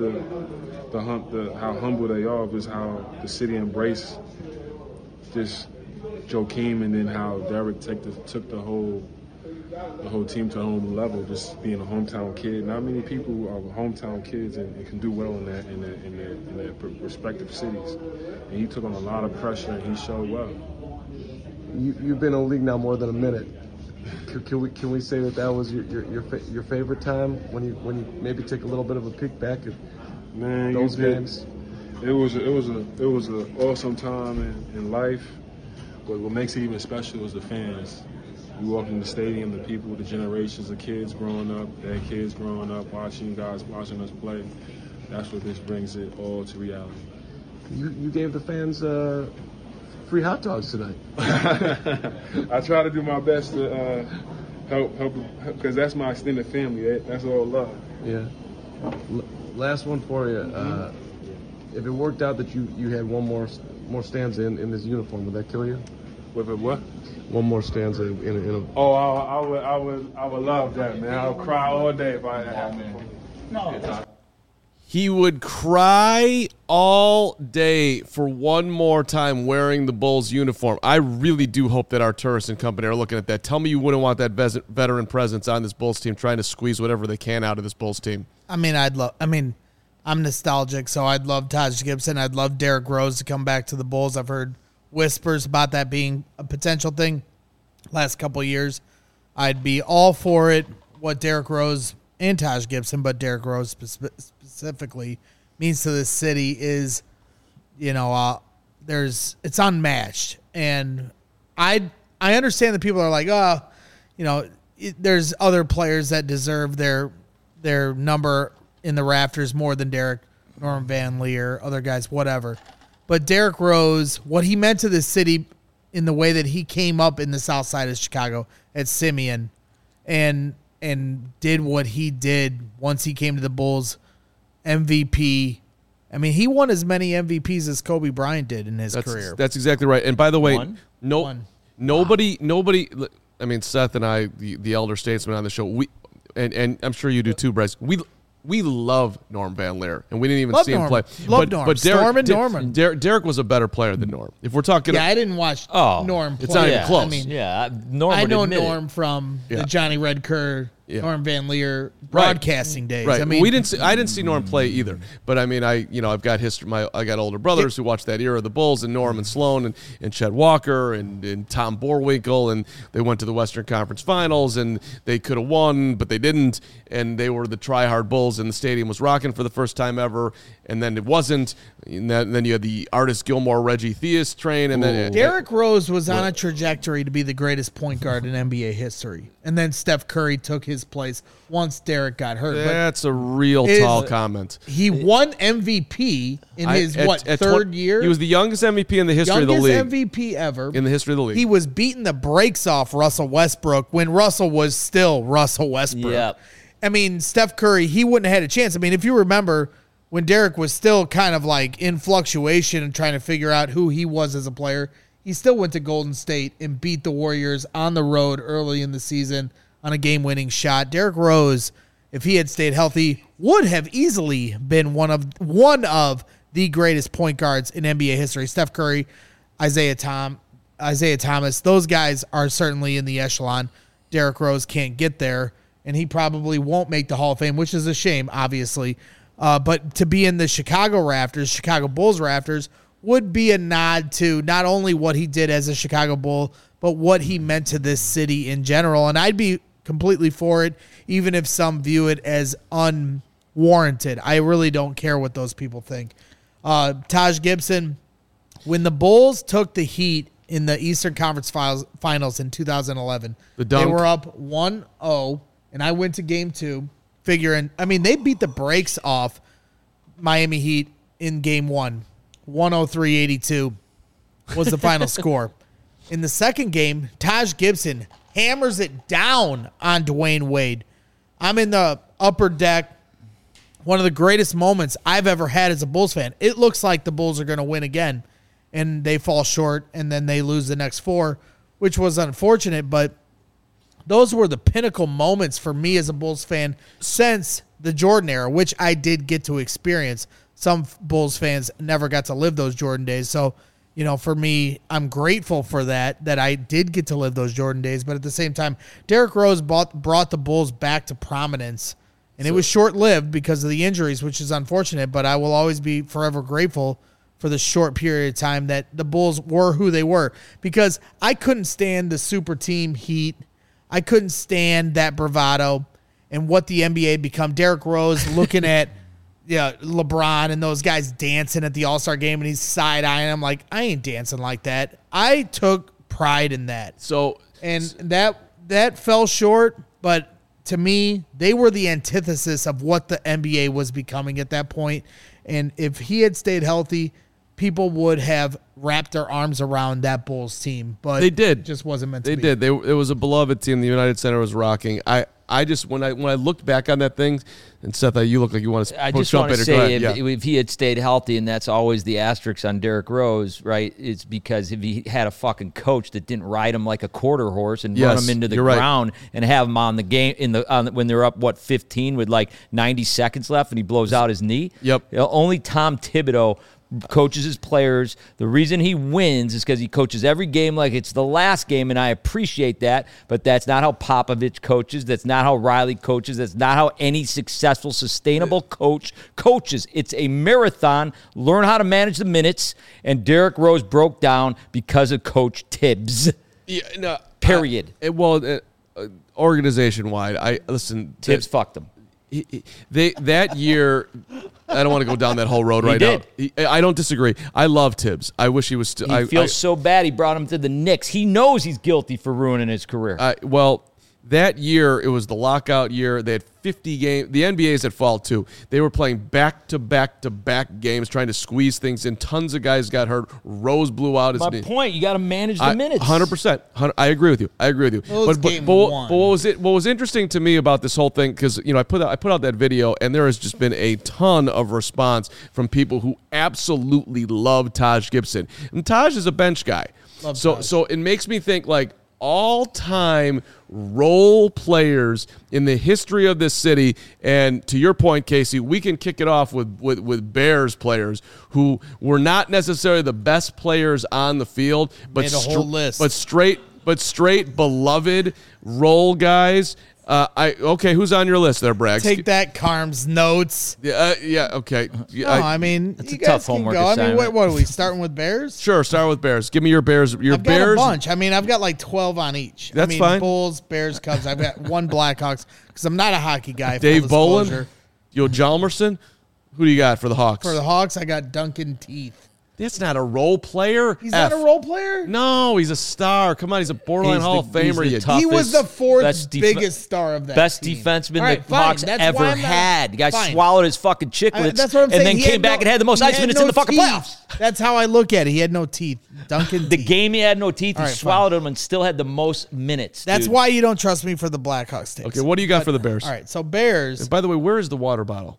how humble they are, because how the city embraced this Joakim, and then how Derrick took the whole team to a whole new level, just being a hometown kid. Not many people are hometown kids and can do well in their respective cities. And he took on a lot of pressure, and he showed well. You've been in the league now more than a minute. Can we say that was your favorite time when you maybe take a little bit of a peek back at those games? It was an awesome time in life. But what makes it even special is the fans. You walk in the stadium, the people, the generations of kids growing up, their kids growing up, watching us play. That's what this brings it all to reality. You gave the fans free hot dogs tonight. I try to do my best to help, because that's my extended family. That's all love. Yeah. Last one for you. If it worked out that you had one more stanza in this uniform, would that kill you? With a what? One more stanza in a. Oh, I would love that, man. I would cry all day if I had that happen. No. He would cry all day for one more time wearing the Bulls uniform. I really do hope that Arturas and company are looking at that. Tell me you wouldn't want that veteran presence on this Bulls team, trying to squeeze whatever they can out of this Bulls team. I'm nostalgic, so I'd love Taj Gibson. I'd love Derrick Rose to come back to the Bulls. I've heard whispers about that being a potential thing last couple of years. I'd be all for it, what Derrick Rose and Taj Gibson, but Derrick Rose specifically means to this city is, it's unmatched. And I understand that people are like, there's other players that deserve their number in the rafters more than Derrick, Norman Van Leer, other guys, whatever. But Derrick Rose, what he meant to the city in the way that he came up in the South Side of Chicago at Simeon, and did what he did once he came to the Bulls. MVP. I mean, he won as many MVPs as Kobe Bryant did in his career. That's exactly right. And by the way, nobody. I mean, Seth and I, the elder statesman on the show, and I'm sure you do too, Bryce. We love Norm Van Lier, and we didn't even see him play. Love Norm. But Derek was a better player than Norm. If we're talking, I didn't watch Norm play. It's not even close. I mean, I know Norm from the Johnny Red Kerr, Norm Van Lier broadcasting days. Right. I mean, I didn't see Norm play either. But I mean, I've got history. I got older brothers who watched that era of the Bulls, and Norm and Sloan and Chet Walker and Tom Borwinkle, and they went to the Western Conference Finals, and they could have won, but they didn't. And they were the try-hard Bulls, and the stadium was rocking for the first time ever, and then it wasn't. And then you had the Artis Gilmore, Reggie Theus train, and then Derrick Rose was on a trajectory to be the greatest point guard in NBA history, and then Steph Curry took his place once Derrick got hurt. That's a real tall comment. He won MVP in his third year? He was the youngest MVP in the history of the league. Youngest MVP ever. In the history of the league. He was beating the brakes off Russell Westbrook when Russell was still Russell Westbrook. Yep. I mean, Steph Curry, he wouldn't have had a chance. I mean, if you remember when Derrick was still kind of like in fluctuation and trying to figure out who he was as a player, he still went to Golden State and beat the Warriors on the road early in the season on a game-winning shot. Derrick Rose, if he had stayed healthy, would have easily been one of the greatest point guards in NBA history. Steph Curry, Isaiah Thomas, those guys are certainly in the echelon. Derrick Rose can't get there, and he probably won't make the Hall of Fame, which is a shame, obviously. But to be in the Chicago Bulls rafters, would be a nod to not only what he did as a Chicago Bull, but what he meant to this city in general. And I'd be completely for it, even if some view it as unwarranted. I really don't care what those people think. Taj Gibson, when the Bulls took the Heat in the Eastern Conference Finals in 2011, they were up 1-0, and I went to Game 2 figuring, I mean, they beat the brakes off Miami Heat in Game 1. 103-82 was the final score. In the second game, Taj Gibson hammers it down on Dwayne Wade. I'm in the upper deck. One of the greatest moments I've ever had as a Bulls fan. It looks like the Bulls are going to win again, and they fall short, and then they lose the next 4, which was unfortunate, but those were the pinnacle moments for me as a Bulls fan since the Jordan era, which I did get to experience. Some Bulls fans never got to live those Jordan days. So, for me, I'm grateful for that I did get to live those Jordan days. But at the same time, Derrick Rose brought the Bulls back to prominence. And it was short-lived because of the injuries, which is unfortunate. But I will always be forever grateful for the short period of time that the Bulls were who they were. Because I couldn't stand the super team Heat. I couldn't stand that bravado and what the NBA become. Derrick Rose looking at LeBron and those guys dancing at the All-Star game, and he's side-eyeing. I'm like, I ain't dancing like that. I took pride in that. That fell short, but to me, they were the antithesis of what the NBA was becoming at that point. And if he had stayed healthy, people would have wrapped their arms around that Bulls team. But they did. It just wasn't meant to be. They did. It was a beloved team. The United Center was rocking. I just when I looked back on that thing, and Seth, you look like you want to. I just want to say if he had stayed healthy, and that's always the asterisk on Derrick Rose, right? It's because if he had a fucking coach that didn't ride him like a quarter horse and run him into the ground and have him on the game when they're up 15 with like 90 seconds left and he blows out his knee. Yep. Only Tom Thibodeau coaches his players. The reason he wins is because he coaches every game like it's the last game, and I appreciate that, but that's not how Popovich coaches. That's not how Riley coaches. That's not how any successful, sustainable coach coaches. It's a marathon. Learn how to manage the minutes, and Derrick Rose broke down because of Coach Tibbs. Period. Organization-wide, Tibbs fucked him. That year, I don't want to go down that whole road right now. I don't disagree. I love Tibbs. I wish he was still. He feels so bad he brought him to the Knicks. He knows he's guilty for ruining his career. That year, it was the lockout year. They had 50 games. The NBA's at fall, too. They were playing back-to-back-to-back games, trying to squeeze things in. Tons of guys got hurt. Rose blew out his knee. My point, you got to manage the minutes. 100%. I agree with you. But what was interesting to me about this whole thing, because I put out that video, and there has just been a ton of response from people who absolutely love Taj Gibson. And Taj is a bench guy. So it makes me think, like, all-time role players in the history of this city. And to your point, Casey, we can kick it off with Bears players who were not necessarily the best players on the field, but straight beloved role guys. Who's on your list there, Bragg? Take that, Carm's notes. Okay. It's a tough homework assignment. What are we starting with Bears? Sure, start with Bears. Give me your Bears. I've got a bunch. I've got like 12 on each. That's fine. Bulls, Bears, Cubs. I've got one Blackhawks because I'm not a hockey guy. Dave Bolin, Hjalmarsson. Who do you got for the Hawks? For the Hawks, I got Duncan Teeth. That's not a role player. He's not a role player? No, he's a star. Come on, he's a borderline Hall of Famer. He was the fourth biggest star of that best team. defenseman the Hawks ever had. The guy swallowed his fucking chiclets that's what I'm saying. and then came back and had the most ice minutes in the fucking playoffs. That's how I look at it. He had no teeth. Duncan The game he had no teeth, he swallowed them and still had the most minutes. That's why you don't trust me for the Blackhawks takes. Okay, what do you got for the Bears? All right, so Bears. And by the way, where is the water bottle?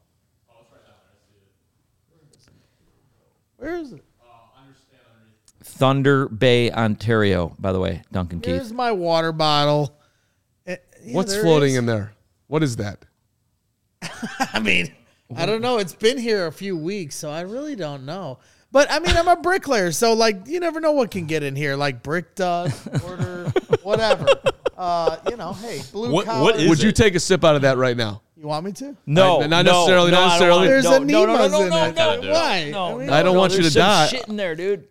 Where is it? Thunder Bay, Ontario, by the way, Duncan Keith. Here's my water bottle. What's floating in there? What is that? I don't know. It's been here a few weeks, so I really don't know. But, I'm a bricklayer, so, like, you never know what can get in here, like brick dust, mortar, whatever. Hey, blue collar. What would you take a sip out of that right now? You want me to? No, not necessarily. Not necessarily. There's anemas in it. Why? I don't want you to die. Shit in there, dude.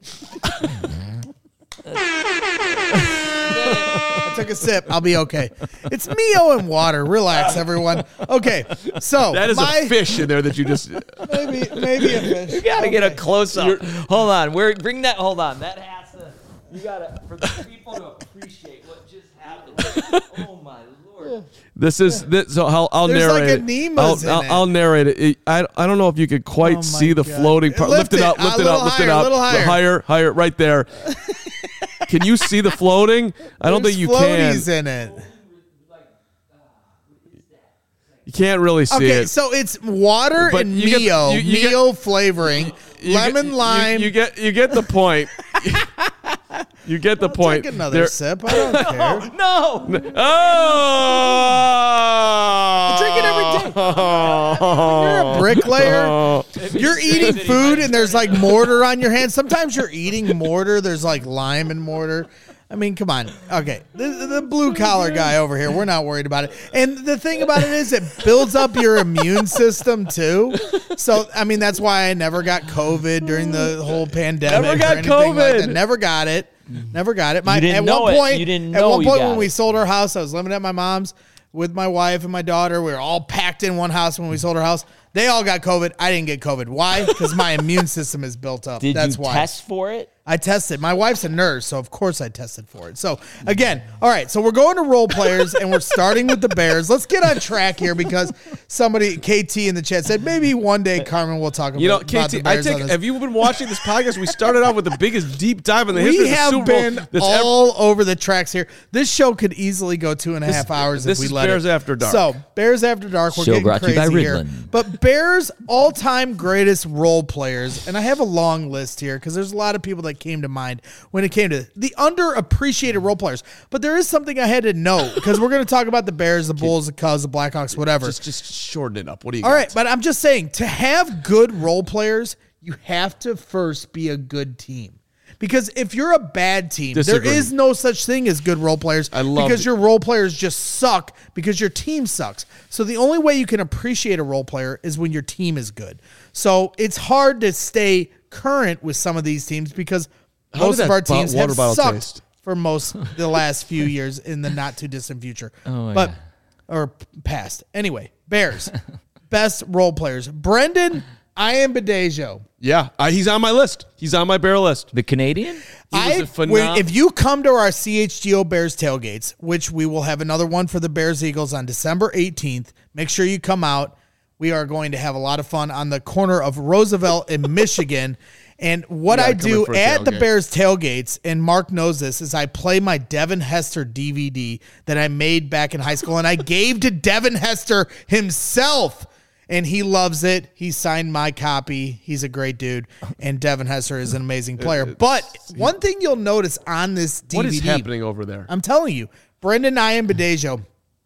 I took a sip. I'll be okay. It's Mio and water. Relax, everyone. Okay, so that is a fish in there that you just maybe a fish. You gotta get a close up. Hold on. Bring that. Hold on. That has to. You gotta for the people to appreciate what just happened. Oh my lord. So I'll narrate it. I'll narrate it. I don't know if you could quite see the floating part. Lift it up. Lift it up. Higher, right there. Can you see the floating? I don't think you can. There's floaties in it. You can't really see it. Okay, so it's water and Mio flavoring, lemon lime. You get the point. You get the point. Take another sip. I don't care. No. I drink it every day. You're a bricklayer. You're eating food and there's like mortar on your hands. Sometimes you're eating mortar. There's like lime and mortar. Come on. Okay. The blue collar guy over here, we're not worried about it. And the thing about it is it builds up your immune system too. So, that's why I never got COVID during the whole pandemic. Never got COVID. Like that. Never got it. Never got it. At one point when we sold our house, I was living at my mom's with my wife and my daughter. We were all packed in one house when we sold our house. They all got COVID. I didn't get COVID. Why? Because my immune system is built up. That's why. Test for it? I tested. My wife's a nurse, so of course I tested for it. So, again, all right, so we're going to role players, and we're starting with the Bears. Let's get on track here because somebody, KT in the chat, said maybe one day, Carmen, will talk about, about the Bears. Have you been watching this podcast? We started out with the biggest deep dive in the history of the Super Bowl. We have been all over the tracks here. This show could easily go 2.5 hours if we let it. This is Bears After Dark. So, Bears After Dark, we're getting crazy here. But Bears all-time greatest role players, and I have a long list here because there's a lot of people that came to mind when it came to the underappreciated role players. But there is something I had to note because we're going to talk about the Bears, the Bulls, the Cubs, the Blackhawks, whatever. Just shorten it up. What do you got? All right, but I'm just saying, to have good role players, you have to first be a good team. Because if you're a bad team, there is no such thing as good role players because your role players just suck because your team sucks. So the only way you can appreciate a role player is when your team is good. So it's hard to stay current with some of these teams because most of our teams have sucked for the last few years in the not too distant future. Or past. Anyway, Bears. Best role players. Brendan Ian Badejo. Yeah, he's on my list. He's on my Bear list. The Canadian? If you come to our CHGO Bears tailgates, which we will have another one for the Bears Eagles on December 18th, make sure you come out. We are going to have a lot of fun on the corner of Roosevelt in Michigan. And what I do at the Bears tailgates, and Mark knows this, is I play my Devin Hester DVD that I made back in high school, and I gave to Devin Hester himself, and he loves it. He signed my copy. He's a great dude, and Devin Hester is an amazing player. But one thing you'll notice on this DVD. What is happening over there? I'm telling you, Brendan Ian Badejo,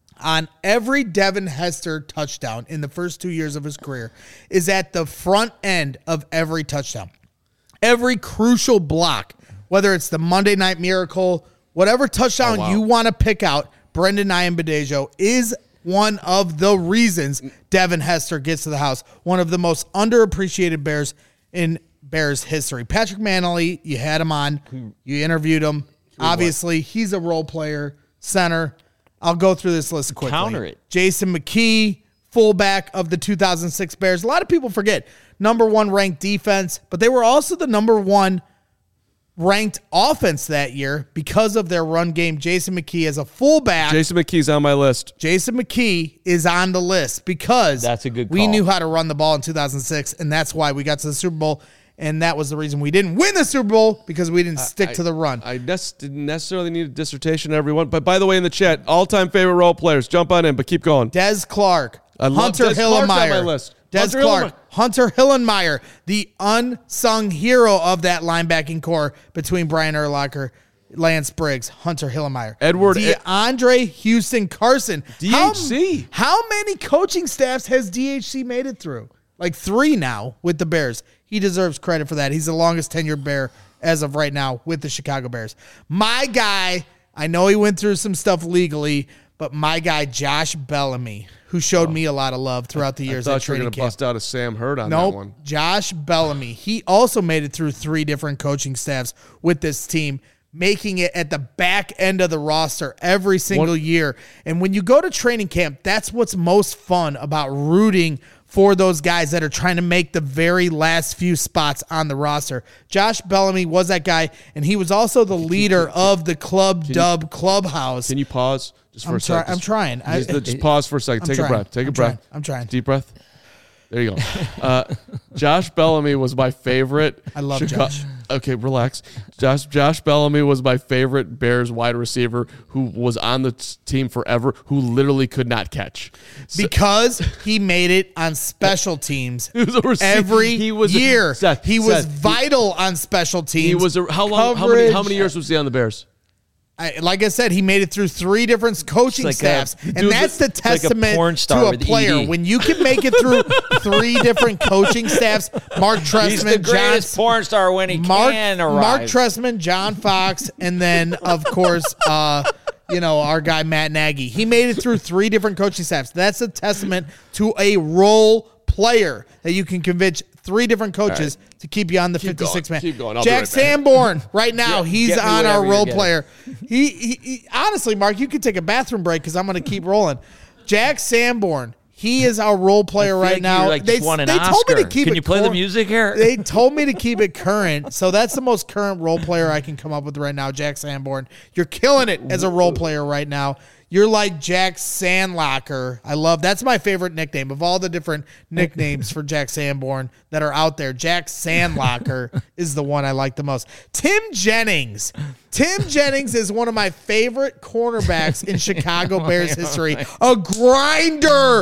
on every Devin Hester touchdown in the first 2 years of his career, is at the front end of every touchdown. Every crucial block, whether it's the Monday Night Miracle, whatever touchdown you want to pick out, Brendan Ian Badejo is one of the reasons Devin Hester gets to the house. One of the most underappreciated Bears in Bears history. Patrick Mannelly, you had him on. You interviewed him. Obviously, he's a role player, center. I'll go through this list quickly. Counter it. Jason McKee, fullback of the 2006 Bears. A lot of people forget. Number 1 ranked defense, but they were also the number 1 ranked offense that year because of their run game. Jason McKee as a fullback. Jason McKee's on my list. Jason McKee is on the list because that's a good call. We knew how to run the ball in 2006, and that's why we got to the Super Bowl. And that was the reason we didn't win the Super Bowl, because we didn't stick to the run. I didn't necessarily need a dissertation, everyone. But by the way, in the chat, all-time favorite role players, jump on in, but keep going. Des Clark, Hunter Hillenmeyer. On my list. Des Clark, Hunter Hillenmeyer, the unsung hero of that linebacking core between Brian Urlacher, Lance Briggs, Hunter Hillenmeyer. DeAndre Houston Carson. DHC. How many coaching staffs has DHC made it through? Like 3 now with the Bears. He deserves credit for that. He's the longest tenured Bear as of right now with the Chicago Bears. My guy, I know he went through some stuff legally, but my guy, Josh Bellamy, who showed me a lot of love throughout the years at training camp. I thought you were going to bust out a Sam Hurd on that one. Josh Bellamy. He also made it through 3 different coaching staffs with this team, making it at the back end of the roster every single year. And when you go to training camp, that's what's most fun about rooting for those guys that are trying to make the very last few spots on the roster. Josh Bellamy was that guy, and he was also the leader of the Clubhouse. Can you pause just for a second? I'm trying. Just pause for a second. Take a breath. Take a breath. I'm trying. Deep breath. There you go. Josh Bellamy was my favorite. I love Josh. Okay, relax. Josh Bellamy was my favorite Bears wide receiver who was on the team forever, who literally could not catch. Because he made it on special teams every year. He was vital on special teams. He was how many years was he on the Bears? Like I said, he made it through 3 different coaching staffs, and that's the testament to a player. When you can make it through 3 different coaching staffs, Mark Trestman, he's the greatest porn star when he can arrive. Mark Trestman, John Fox, and then of course, our guy Matt Nagy. He made it through 3 different coaching staffs. That's a testament to a role player that you can convince 3 different coaches to keep you on the 56-man. Keep going. Jack Sanborn, right now, he's on our role player. He honestly, Mark, you could take a bathroom break because I'm going to keep rolling. Jack Sanborn, he is our role player right now. They told me to keep it. Can you play the music here? They told me to keep it current, so that's the most current role player I can come up with right now, Jack Sanborn. You're killing it as a role player right now. You're like Jack Sandlocker. That's my favorite nickname of all the different nicknames for Jack Sanborn that are out there. Jack Sandlocker is the one I like the most. Tim Jennings. Tim Jennings is one of my favorite cornerbacks in Chicago Bears history. A grinder,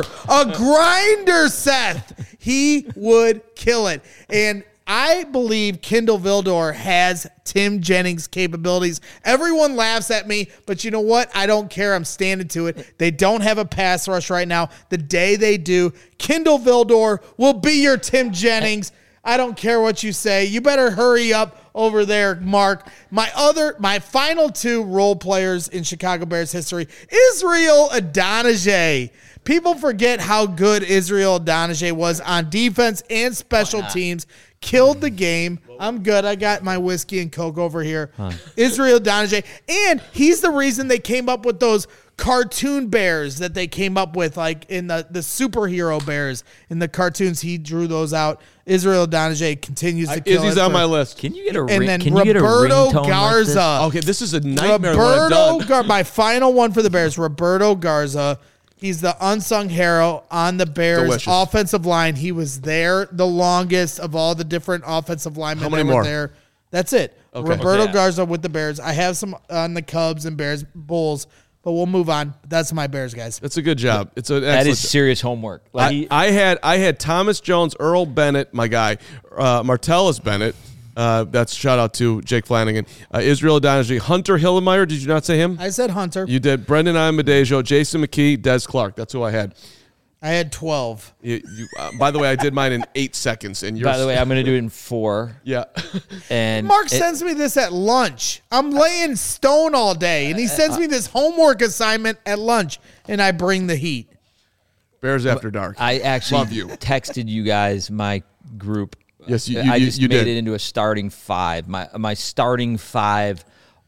Seth. He would kill it. And I believe Kindle Vildor has Tim Jennings' capabilities. Everyone laughs at me, but you know what? I don't care. I'm standing to it. They don't have a pass rush right now. The day they do, Kindle Vildor will be your Tim Jennings. I don't care what you say. You better hurry up over there, Mark. My final 2 role players in Chicago Bears history, Israel Adonijah. people forget how good Israel Adonijah was on defense and special teams. Killed the game. I'm good. I got my whiskey and Coke over here. Israel Adonijah. And he's the reason they came up with those cartoon bears that they came up with, like in the superhero bears in the cartoons. He drew those out. Israel Adonijah continues to kill. Izzy's on my list. Can you get a And then can you get a Roberto ringtone Garza. like Okay, this is a nightmare. What I've done. My final one for the Bears, Roberto Garza. He's the unsung hero on the Bears Delicious. offensive line. He was there the longest of all the different offensive linemen How many that were more? there. That's it. Okay. Roberto Okay. Garza with the Bears. I have some on the Cubs and Bears, Bulls, but we'll move on. That's my Bears, guys. That's a good job. It's an that excellent is serious homework. Like I had Thomas Jones, Earl Bennett, my guy, Martellus Bennett. That's shout out to Jake Flanagan, Israel Adonijah, Hunter Hillemeyer. Did you not say him? I said Hunter. You did. Brendan Amadejo, Jason McKee, Des Clark. That's who I had. I had 12. By the way, I did mine in 8 seconds. And yours, by the way, I'm going to do it in 4. yeah. And Mark sends me this at lunch. I'm laying stone all day, and he sends me this homework assignment at lunch, and I bring the heat. Bears After Dark. I actually Love you. texted you guys my group. Yes, you I just you made did. it into a starting 5. My starting 5,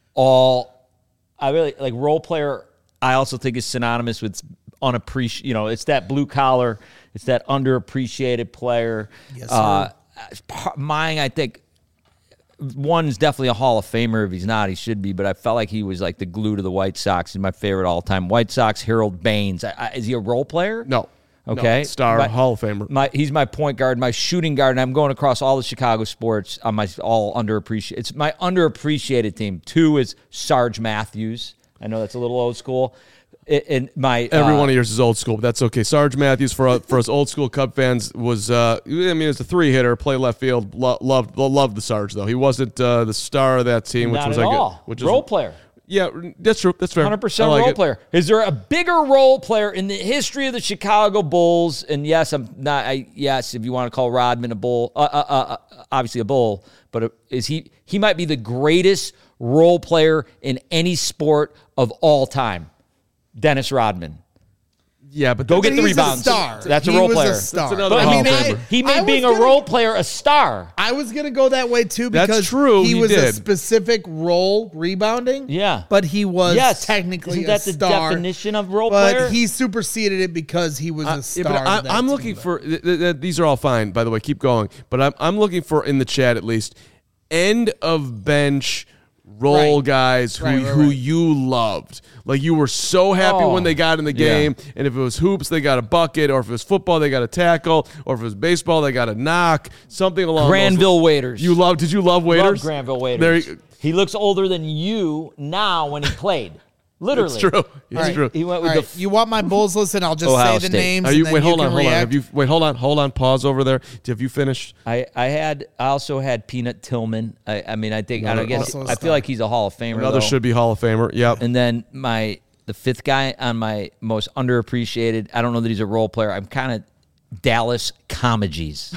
all I really like role player. I also think is synonymous with unappreciated. You know, it's that blue collar, it's that underappreciated player. Yes, sir. Mine, I think. One's definitely a Hall of Famer. If he's not, he should be. But I felt like he was like the glue to the White Sox. He's my favorite all-time. White Sox, Harold Baines. Is he a role player? No. Okay. No. Star, Hall of Famer. He's my point guard, my shooting guard, and I'm going across all the Chicago sports on my all underappreciated. It's my underappreciated team. 2 is Sarge Matthews. I know that's a little old school. Every one of yours is old school, but that's okay. Sarge Matthews, for us old school Cub fans, was it was a 3-hitter, play left field. Loved the Sarge though. He wasn't the star of that team, which not was at like all. Role player. Yeah, that's true. That's fair. 100% I like role it. player. Is there a bigger role player in the history of the Chicago Bulls? And yes, I'm not. Yes, if you want to call Rodman a Bull, obviously a Bull, but is he? He might be the greatest role player in any sport of all time. Dennis Rodman. Yeah, but Go get the He's rebounds. a star. That's a He role was player. a star. That's another But Hall of Famer. he made I being was a role player a star. I was going to go that way too because That's true, he he was a did. specific role rebounding. Yeah. But he was Yes, technically isn't that a the star. definition of role but player? he superseded it because he was a star. Yeah, but of that I'm team. looking for these are all fine, by the way. Keep going, but I'm looking for, in the chat at least, end of bench role Right. guys who Right. who you loved. Like, you were so happy when they got in the game, and if it was hoops, they got a bucket, or if it was football, they got a tackle, or if it was baseball, they got a knock, something along Granville those Waiters. Did you love Waiters? Love Granville Waiters. There He looks older than you now when he played. Literally. It's true. It's Right. true. He went All with right, you want my Bulls list, and I'll just Ohio say the State. names. Are you, and then wait, hold you on, can hold on. react. Hold on. Pause over there. Have you finished? I also had Peanut Tillman. I feel Also a star. like he's a Hall of Famer. Another though. should be Hall of Famer. Yep. And then the 5th guy on my most underappreciated. I don't know that he's a role player. I'm kind of Dallas Comegys.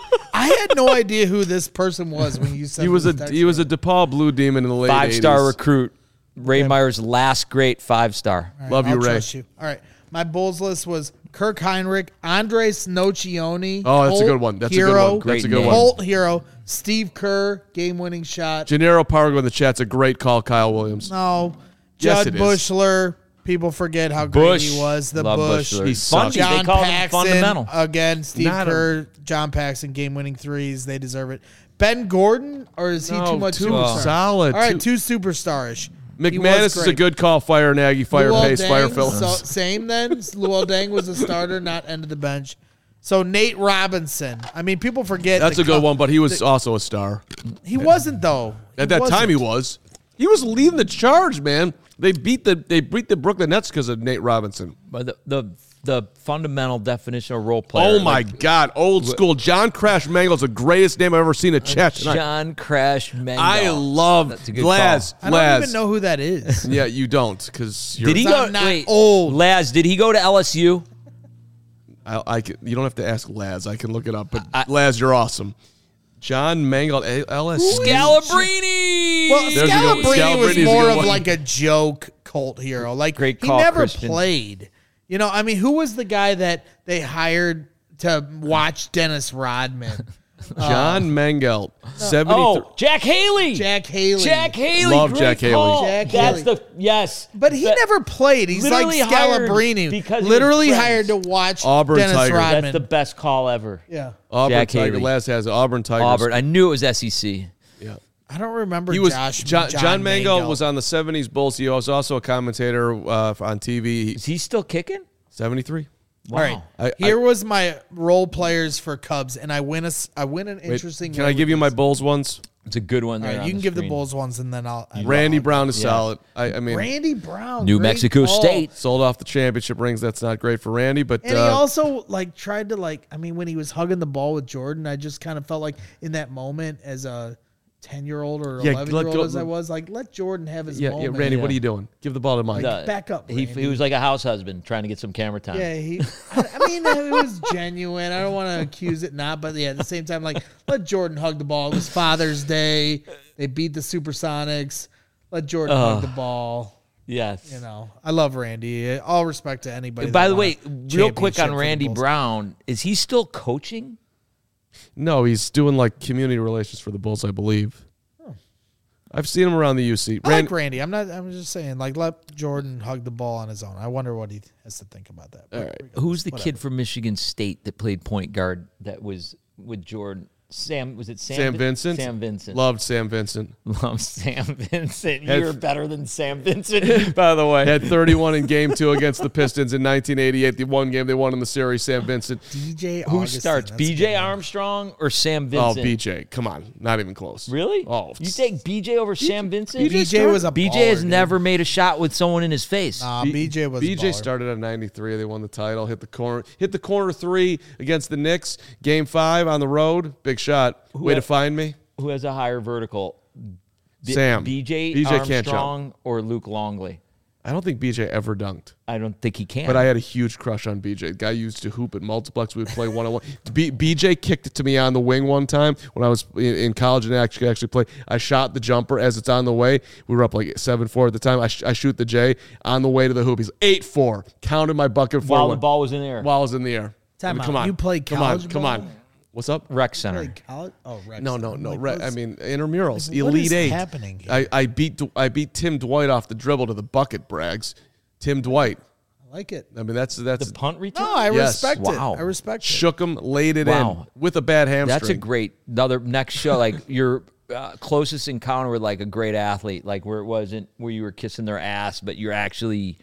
I had no idea who this person was when you said He was a this DePaul Blue Demon in the late 5-star 80s. recruit. Ray Meyer's last great 5-star. All right, Love you, I'll Ray. trust you. All right. My Bulls list was Kirk Heinrich, Andres Nocioni. Oh, that's a Colt good one. That's a Hero, good one. That's a Great good name. one. Colt Hero, Steve Kerr, game-winning shot. Gennaro Pargo in the chat's a great call, Kyle Williams. No, Yes, Judd it is. Bushler. People forget how great Bush. he was. The Love Bush. Bushler. He Funny, sucks. they John call him Paxson, fundamental. again, Steve Not a- Kerr, John Paxson, game-winning threes. They deserve it. Ben Gordon, or is he too much too superstar? solid. All right, too superstar-ish. He was McManus is a great. good call. Fire Nagy, fire Luol Pace, fire Deng, Phillips. so, same then. Luol Deng was a starter, not end of the bench. So Nate Robinson. I mean, people forget. That's the a good Cub- one, but he was also a star. He wasn't though. At that time, he was. He was leading the charge, man. They beat the Brooklyn Nets because of Nate Robinson. But the fundamental definition of role player. Oh my God, old school. John Crash Mangle's the greatest name I've ever seen in chat tonight. John Crash Mangle. I love That's a good Laz. call. I don't even know who that is. Yeah, you don't, because you're. Did he I'm go? not Wait, old. Laz, did he go to LSU? You don't have to ask Laz. I can look it up. But Laz, you're awesome. John Mangle, LSU. Scalabrini. Well, There's a good- Scalabrini was Scalabrini's a more good of one. like a joke cult hero. Like Great he call, never Christian. played. You know, I mean, who was the guy that they hired to watch Dennis Rodman? John Mangelt, 73. Oh, Jack Haley. Jack Haley. Love Jack Haley. Jack That's Haley. yes. But he never played. He's like Literally hired Scalabrine. because he literally was hired friends. to watch Auburn Dennis Tiger. Rodman. That's the best call ever. Yeah. Auburn Jack Tiger. Haley. Last has Auburn Tigers. Auburn. I knew it was SEC. Yeah. I don't remember He was John Mangelt was on the 70s Bulls. He was also a commentator on TV. Is he still kicking? 73. All right. Here was my role players for Cubs, and I win an interesting. Can I give you my Bulls ones? It's a good one All there. right, on you can give screen. the Bulls ones, and then I'll. Randy Brown is solid. I mean, Randy Brown, New great Mexico call. State. sold off the championship rings. That's not great for Randy, but And he also tried to I mean, when he was hugging the ball with Jordan, I just kind of felt like in that moment as a 10-year-old or 11-year-old as I was, let Jordan have his moment. yeah, Randy, what are you doing? Give the ball to Mike. Back up, He Randy. was like a house husband trying to get some camera time. Yeah, I mean, it was genuine. I don't want to accuse it not, but yeah, at the same time, let Jordan hug the ball. It was Father's Day. They beat the Supersonics. Let Jordan hug the ball. Yes. You know, I love Randy. All respect to anybody. By that the won way, a real quick championship on for the Randy Bulls. Brown, is he still coaching? No, he's doing community relations for the Bulls, I believe. I've seen him around the UC. I like Randy. I'm just saying, let Jordan hug the ball on his own. I wonder what he has to think about that. All right. Who's the kid from Michigan State that played point guard that was with Jordan? Sam Vincent? Sam Vincent. Loved Sam Vincent. Love Sam Vincent. You're better than Sam Vincent, by the way. Had 31 in Game 2 against the Pistons in 1988. The one game they won in the series, Sam Vincent. DJ Who Augustin, starts, that's a good BJ one. Armstrong or Sam Oh, Vincent? BJ. Come on. Not even close. Really? Oh. You take BJ over Sam Vincent? BJ was a BJ baller, has dude. never made a shot with someone in his face. BJ was a BJ baller. started at 93. They won the title. Hit the corner three against the Knicks. Game 5 on the road. Big shot. Way to find me. Who has a higher vertical? Sam. BJ can't jump. Armstrong or Luke Longley? I don't think BJ ever dunked. I don't think he can. But I had a huge crush on BJ. The guy used to hoop at multiplex. We would play one-on-one. BJ kicked it to me on the wing one time when I was in college and actually play. I shot the jumper as it's on the way. We were up 7-4 at the time. I shoot the J on the way to the hoop. He's 8-4. Counted my bucket for while the ball was in the air. While it was in the air. Time Come out. on. You played college Come on. ball? What's up? Rec Center. Played college? Oh, Rex. No. I mean, intramurals, What Elite is Eight. happening here? I beat Tim Dwight off the dribble to the bucket, Braggs. Tim Dwight. I like it. I mean, that's The punt return? No, I Yes. respect Wow. it. I respect it. shook him, laid it Wow. in with a bad hamstring. That's a great next show. Your closest encounter with a great athlete, where it wasn't where you were kissing their ass, but you're actually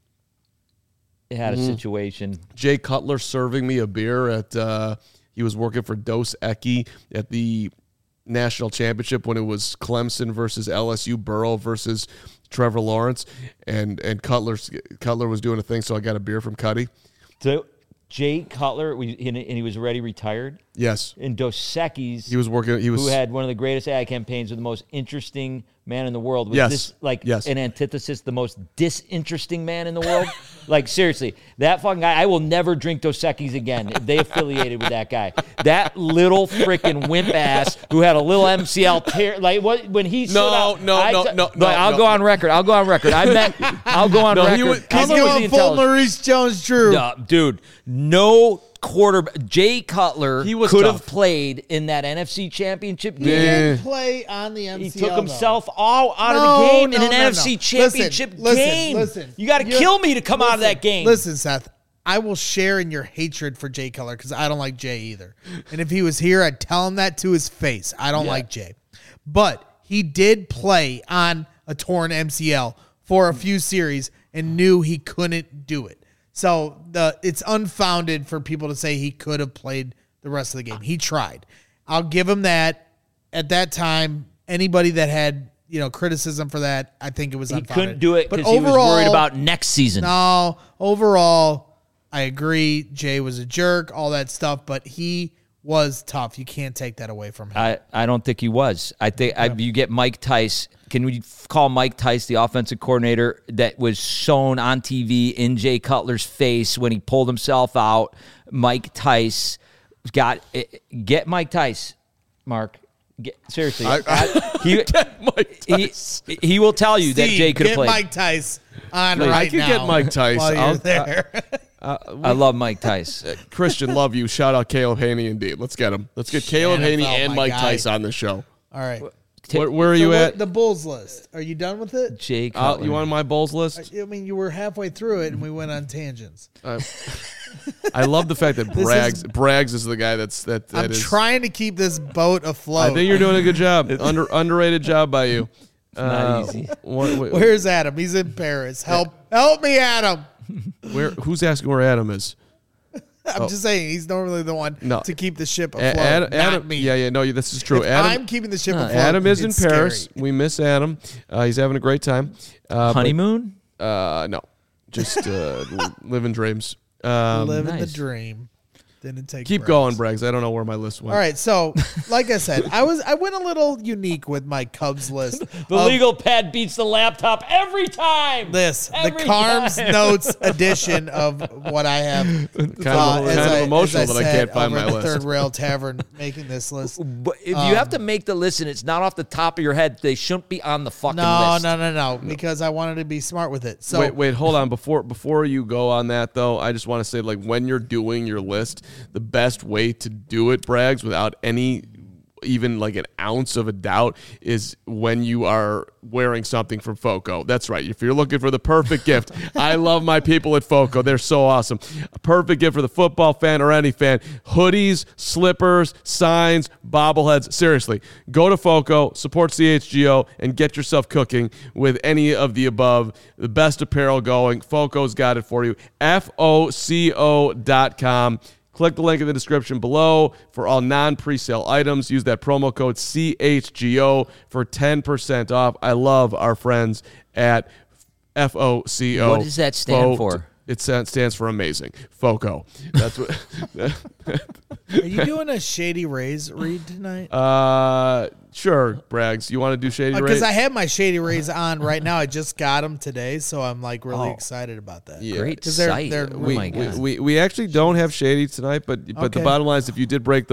had a situation. Jay Cutler serving me a beer at. He was working for Dos Equis at the national championship when it was Clemson versus LSU, Burrow versus Trevor Lawrence, and Cutler was doing a thing, so I got a beer from Cuddy. So Jay Cutler, and he was already retired. Yes, And Dos Equis, he was working. who had one of the greatest ad campaigns with the most interesting man in the world. Was Yes. this Yes. an antithesis, the most disinteresting man in the world? Seriously, that fucking guy, I will never drink Dos Equis again if they affiliated with that guy. That little freaking wimp ass who had a little MCL tear. When he stood up. I'll go on record. I'll go on record. I'll go on record. He's Cutler was going the full intelligent- Maurice Jones-Drew. Dude, no quarterback. Jay Cutler He was could tough. have played in that NFC Championship He game. didn't play on the MCL. He took though. himself all out of the game in an NFC no. Championship game. Listen. You got to kill me to come out of that game. Listen, Seth, I will share in your hatred for Jay Cutler because I don't like Jay either. And if he was here, I'd tell him that to his face. I don't like Jay. But he did play on a torn MCL for a few series and knew he couldn't do it. So it's unfounded for people to say he could have played the rest of the game. He tried. I'll give him that. At that time, anybody that had criticism for that, I think it was he unfounded. couldn't do it But because he was overall- worried about next season. No, overall, I agree. Jay was a jerk, all that stuff, but he was tough. You can't take that away from him. I don't think he was. I think you get Mike Tice. Can we call Mike Tice the offensive coordinator that was shown on TV in Jay Cutler's face when he pulled himself out? Mike Tice get Mike Tice, Mark. Seriously, he will tell you that Steve, Jay could have get played. Mike Tice. on right now. I could get Mike Tice. While you're there. I love Mike Tice. Christian, love you. Shout out Caleb Haney indeed. Let's get him. Let's get Caleb Haney and Mike Tice on the show. All right. Where are you at? The Bulls list. Are you done with it? Jay You want my Bulls list? I mean, you were halfway through it, and we went on tangents. I love the fact that Braggs is the guy that I'm is trying to keep this boat afloat. I think you're doing a good job. Underrated job by you. Not easy. Where's Adam? He's in Paris. Help me, Adam. Who's asking where Adam is? I'm just saying he's normally the one to keep the ship afloat. Adam, not me. Yeah, no, this is true. I'm keeping the ship afloat. Adam is in Paris. Scary. We miss Adam. He's having a great time. Honeymoon? No, just living dreams. Living the dream. Didn't take. Keep going, Braggs. I don't know where my list went. All right, so like I said, I went a little unique with my Cubs list. The legal pad beats the laptop every time. The Carms Notes edition of what I have. Kind of emotional that I can't find my list. Third Rail Tavern making this list. But if you have to make the list and it's not off the top of your head, they shouldn't be on the fucking list. No, because I wanted to be smart with it. So wait, hold on. Before you go on that though, I just want to say, like, when you're doing your list, the best way to do it, Braggs, without any even like an ounce of a doubt, is when you are wearing something from FOCO. That's right. If you're looking for the perfect gift, I love my people at FOCO. They're so awesome. A perfect gift for the football fan or any fan. Hoodies, slippers, signs, bobbleheads. Seriously, go to FOCO, support CHGO, and get yourself cooking with any of the above. The best apparel going. FOCO's got it for you. FOCO.com. Click the link in the description below for all non-presale items. Use that promo code CHGO for 10% off. I love our friends at FOCO. What does that stand for? It stands for amazing. FOCO. That's what. Are you doing a Shady Rays read tonight? Sure, Braggs. You want to do Shady Rays? Because I have my Shady Rays on right now. I just got them today, so I'm like really excited about that. Yeah. Great site. They're oh my God. We actually don't have Shady tonight, but the bottom line is, if you did break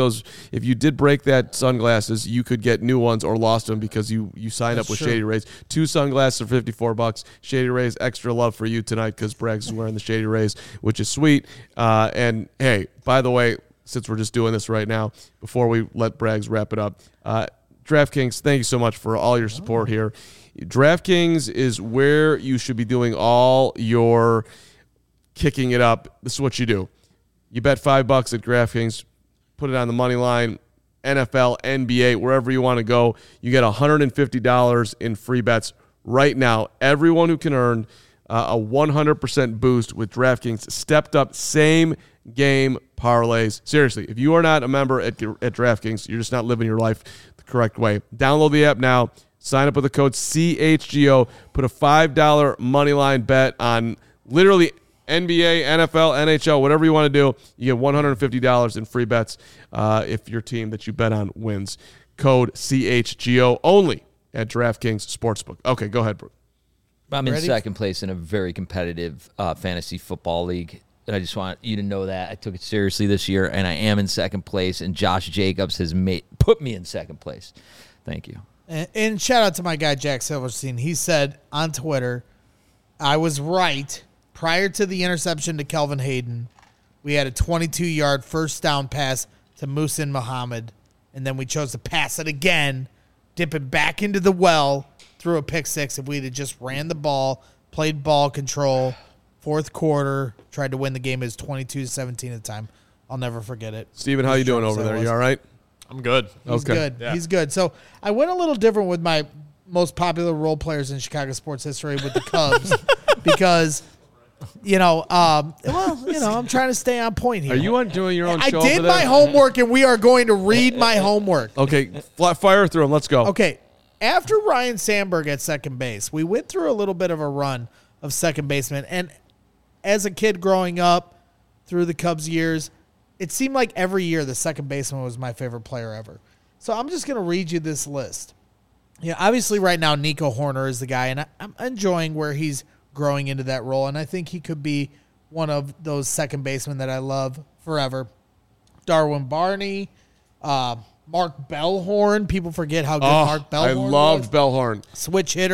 that sunglasses, you could get new ones or lost them because you signed up with Shady Rays. 2 sunglasses are $54. Shady Rays, extra love for you tonight because Braggs is wearing the Shady Rays, which is sweet. And hey, by the way, since we're just doing this right now, before we let Braggs wrap it up, DraftKings, thank you so much for all your support here. DraftKings is where you should be doing all your kicking it up. This is what you do. You bet $5 at DraftKings, put it on the money line, NFL, NBA, wherever you want to go. You get $150 in free bets right now. Everyone who can earn a 100% boost with DraftKings stepped up same game parlays. Seriously, if you are not a member at DraftKings, you're just not living your life the correct way. Download the app now. Sign up with the code CHGO. Put a $5 moneyline bet on literally NBA, NFL, NHL, whatever you want to do. You get $150 in free bets if your team that you bet on wins. Code CHGO only at DraftKings Sportsbook. Okay, go ahead, Brooke. I'm in second place in a very competitive fantasy football league. And I just want you to know that I took it seriously this year, and I am in second place, and Josh Jacobs has put me in second place. Thank you. And shout out to my guy, Jack Silverstein. He said on Twitter, I was right. Prior to the interception to Kelvin Hayden, we had a 22-yard first down pass to Muhsin Muhammad, and then we chose to pass it again, dip it back into the well, threw a pick six. If we'd have just ran the ball, played ball control, fourth quarter, tried to win the game. It was 22-17 at the time. I'll never forget it. Steven, how you doing over there? You all right? I'm good. He's good. Yeah. He's good. So I went a little different with my most popular role players in Chicago sports history with the Cubs because, I'm trying to stay on point here. Are you doing your own show? I did my homework, and we are going to read my homework. Okay, fire through them. Let's go. Okay. After Ryan Sandberg at second base, we went through a little bit of a run of second baseman. And as a kid growing up through the Cubs years, it seemed like every year the second baseman was my favorite player ever. So I'm just going to read you this list. Obviously right now Nico Horner is the guy, and I'm enjoying where he's growing into that role, and I think he could be one of those second basemen that I love forever. Darwin Barney, Mark Bellhorn. People forget how good Mark Bellhorn was. I loved Bellhorn. Switch hitter,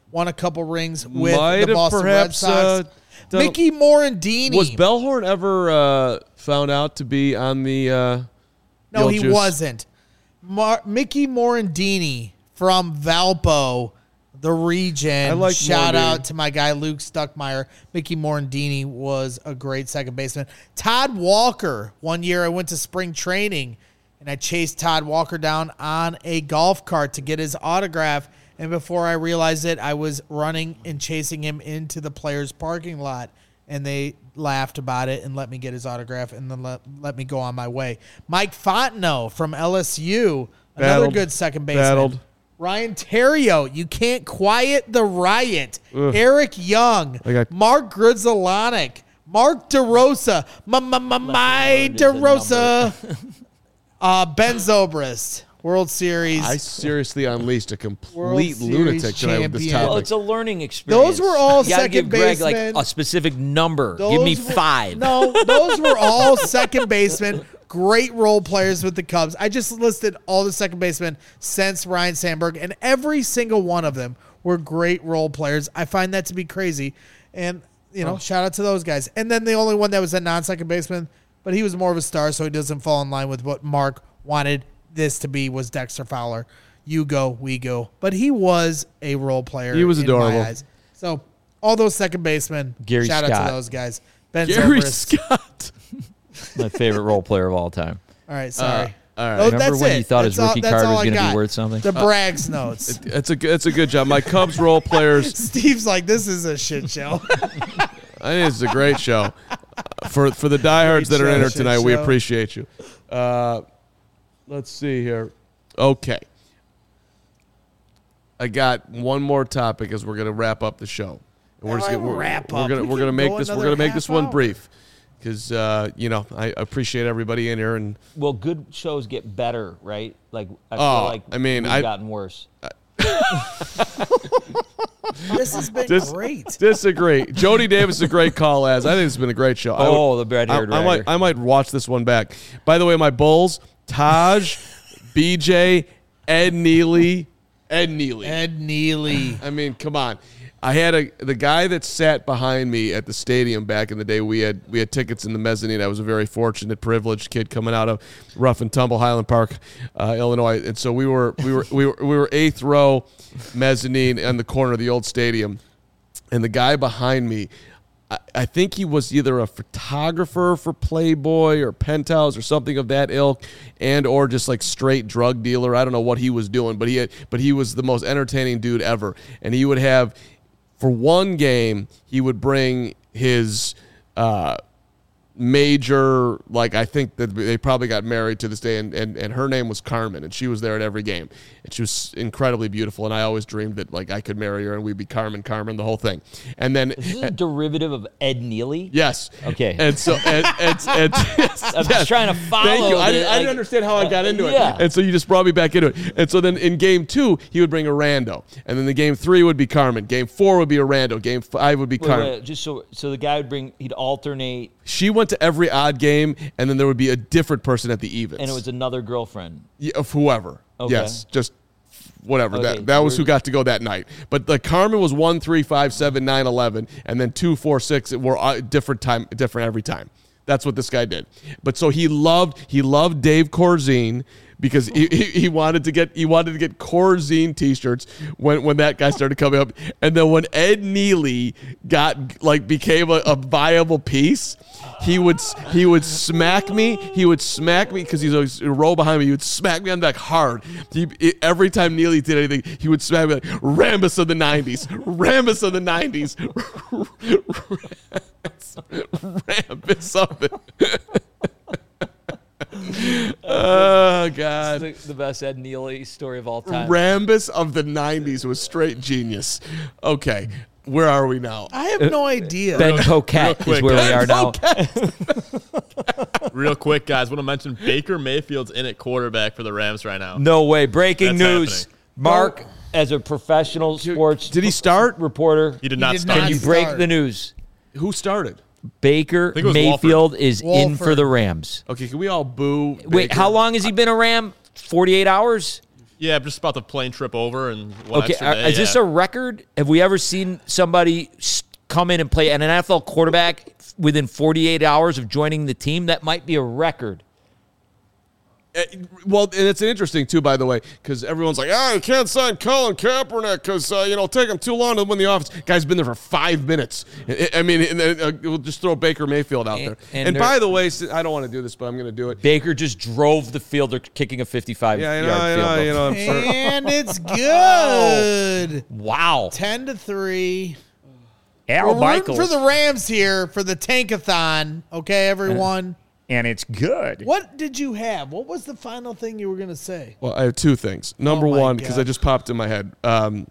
won a couple rings with the Boston Red Sox. Mickey Morandini. Was Bellhorn ever found out to be on the No, he wasn't. Mickey Morandini from Valpo, the region. Shout out to my guy Luke Stuckmeyer. Mickey Morandini was a great second baseman. Todd Walker. One year I went to spring training, and I chased Todd Walker down on a golf cart to get his autograph. And before I realized it, I was running and chasing him into the players' parking lot. And they laughed about it and let me get his autograph and then let me go on my way. Mike Fontenot from LSU, another good second baseman. Ryan Theriot, you can't quiet the riot. Eric Young, Mark Grudzielanek, Mark DeRosa, my DeRosa, Ben Zobrist. World Series. I seriously unleashed a complete lunatic tonight with this topic. Well, it's a learning experience. Those were all you gotta second give Greg basemen. like a specific number. Give me 5. No, those were all second basemen. Great role players with the Cubs. I just listed all the second basemen since Ryan Sandberg, and every single one of them were great role players. I find that to be crazy. And, shout out to those guys. And then the only one that was a non-second baseman, but he was more of a star, so he doesn't fall in line with what Mark wanted this to be, was Dexter Fowler. You go, we go. But he was a role player. He was adorable. In my eyes. So all those second basemen, shout out to those guys. Ben Gary Zobrist. Scott. My favorite role player of all time. All right, sorry. All right. Oh, Remember when you thought his rookie card was going to be worth something? The Braggs notes. It's a good job. My Cubs role players. Steve's like, this is a shit show. I think it's a great show. For the diehards that are in here tonight, we appreciate you. Let's see here. Okay. I got one more topic as we're going to wrap up the show. And we're going to make this one brief because I appreciate everybody in here. And well, good shows get better, right? Like I feel like we've gotten worse. This has been great. Disagree. Jody Davis is a great call, I think it's been a great show. The red-haired I might watch this one back. By the way, my Bulls, Taj, BJ, Ed Neely. I mean, come on. I had the guy that sat behind me at the stadium back in the day. We had tickets in the mezzanine. I was a very fortunate, privileged kid coming out of rough and tumble Highland Park, Illinois, and so we were 8th row mezzanine on the corner of the old stadium, and the guy behind me, I think he was either a photographer for Playboy or Penthouse or something of that ilk, and or just like straight drug dealer. I don't know what he was doing, but he was the most entertaining dude ever. And he would have, for one game, he would bring his major, like I think that they probably got married to this day, and her name was Carmen, and she was there at every game, and she was incredibly beautiful, and I always dreamed that like I could marry her and we'd be Carmen, the whole thing. And then is this a derivative of Ed Neely? Yes. Okay. And so I'm just trying to follow. Thank you. I didn't understand how I got into it, and so you just brought me back into it. And so then in game 2 he would bring a rando, and then the game 3 would be Carmen, game 4 would be a rando, game 5 would be Carmen. Wait, just so the guy he'd alternate. She went to every odd game, and then there would be a different person at the evens. And it was another girlfriend. Yeah, of whoever. Okay. Yes, just whatever. Okay, that was who got to go that night. But the Carmen was 1, 3, 5, 7, 9, 11, and then 2, 4, 6 were different every time. That's what this guy did. But so he loved Dave Corzine, because he wanted to get Corzine t-shirts when that guy started coming up, and then when Ed Neely became a viable piece, he would smack me because he's a row behind me. He would smack me on the back hard. Every time Neely did anything, he would smack me like Rambus of the 90s, Rambus of the 90s, Rambus of it. Oh God! The best Ed Neely story of all time. Rambus of the 90s was straight genius. Okay, where are we now? I have no idea. Ben Coquette is where we are now. Real quick, guys, want to mention Baker Mayfield's in at quarterback for the Rams right now. No way! Breaking That's news. Happening. Mark, as a professional sports did he start reporter? He did not start. Can you break the news? Who started? Baker Mayfield is in for the Rams. Okay, can we all boo? Wait, Baker? how long has he been a Ram? 48 hours? Yeah, just about the plane trip over and one extra day. Is this a record? Have we ever seen somebody come in and play an NFL quarterback within 48 hours of joining the team? That might be a record. Well, and it's interesting, too, by the way, because everyone's like, you can't sign Colin Kaepernick because, it'll take him too long to win the office. Guy's been there for 5 minutes. I mean, we'll just throw Baker Mayfield out there. And by the way, I don't want to do this, but I'm going to do it. Baker just drove the field. They're kicking a 55-yard field goal. And it's good. Wow. 10-3. Al We're Michaels. rooting for the Rams here for the Tankathon. Okay, everyone. And it's good. What did you have? What was the final thing you were going to say? Well, I have two things. Number one, because I just popped in my head. The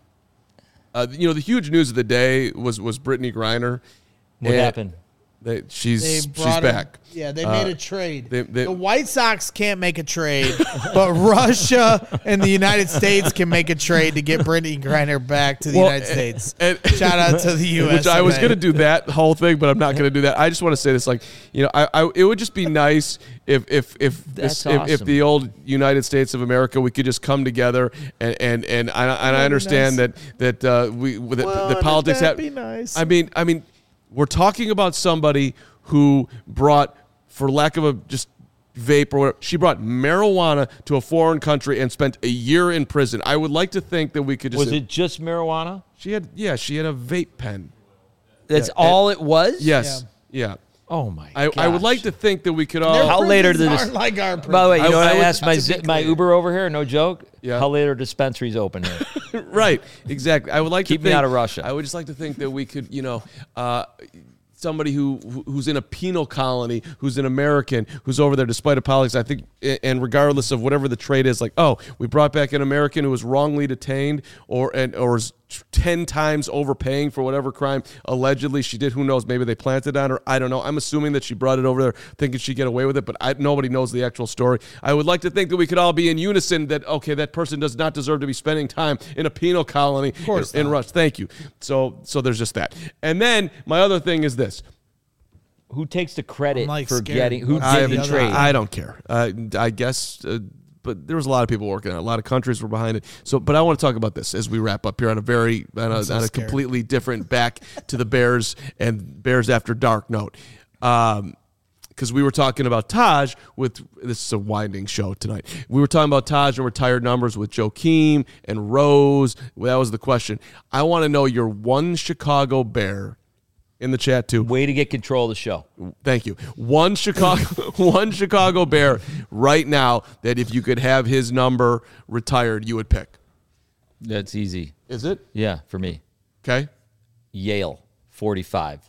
huge news of the day was Brittany Griner. What happened? She's back. Yeah, they made a trade. The White Sox can't make a trade, but Russia and the United States can make a trade to get Brittany Griner back to the United States. Shout out to the U.S. Which I was going to do that whole thing, but I'm not going to do that. I just want to say this, it would just be nice if the old United States of America, we could just come together and I understand nice. that the politics have. Be nice. I mean. We're talking about somebody who brought, for lack of a just vape or whatever, she brought marijuana to a foreign country and spent a year in prison. I would like to think that we could just... Was it just marijuana? She had a vape pen. That's all it was? Yes. Yeah. Oh, my God. I would like to think that we could all... How late are the... Like our prisons. By the way, I asked my Uber over here, no joke? Yeah. How late are dispensaries open here? Right. Exactly. I would like Keep me out of Russia. I would just like to think that we could, somebody who's in a penal colony, who's an American, who's over there despite a politics, I think, and regardless of whatever the trade is, we brought back an American who was wrongly detained or is 10 times overpaying for whatever crime allegedly she did. Who knows? Maybe they planted on her. I don't know. I'm assuming that she brought it over there thinking she'd get away with it, but nobody knows the actual story. I would like to think that we could all be in unison that, okay, that person does not deserve to be spending time in a penal colony in Russia. Thank you. So there's just that. And then my other thing is this. Who takes the credit for scared. getting... Who did the trade? I don't care. I guess... but there was a lot of people working on it. A lot of countries were behind it. But I want to talk about this as we wrap up here on a completely different back to the Bears and Bears After Dark note. Because we were talking about Taj this is a winding show tonight. We were talking about Taj and retired numbers with Joakim and Rose. That was the question. I want to know your one Chicago Bear in the chat too. Way to get control of the show. Thank you. One Chicago Bear right now that if you could have his number retired, you would pick. That's easy. Is it? Yeah, for me. Okay. Yale, 45.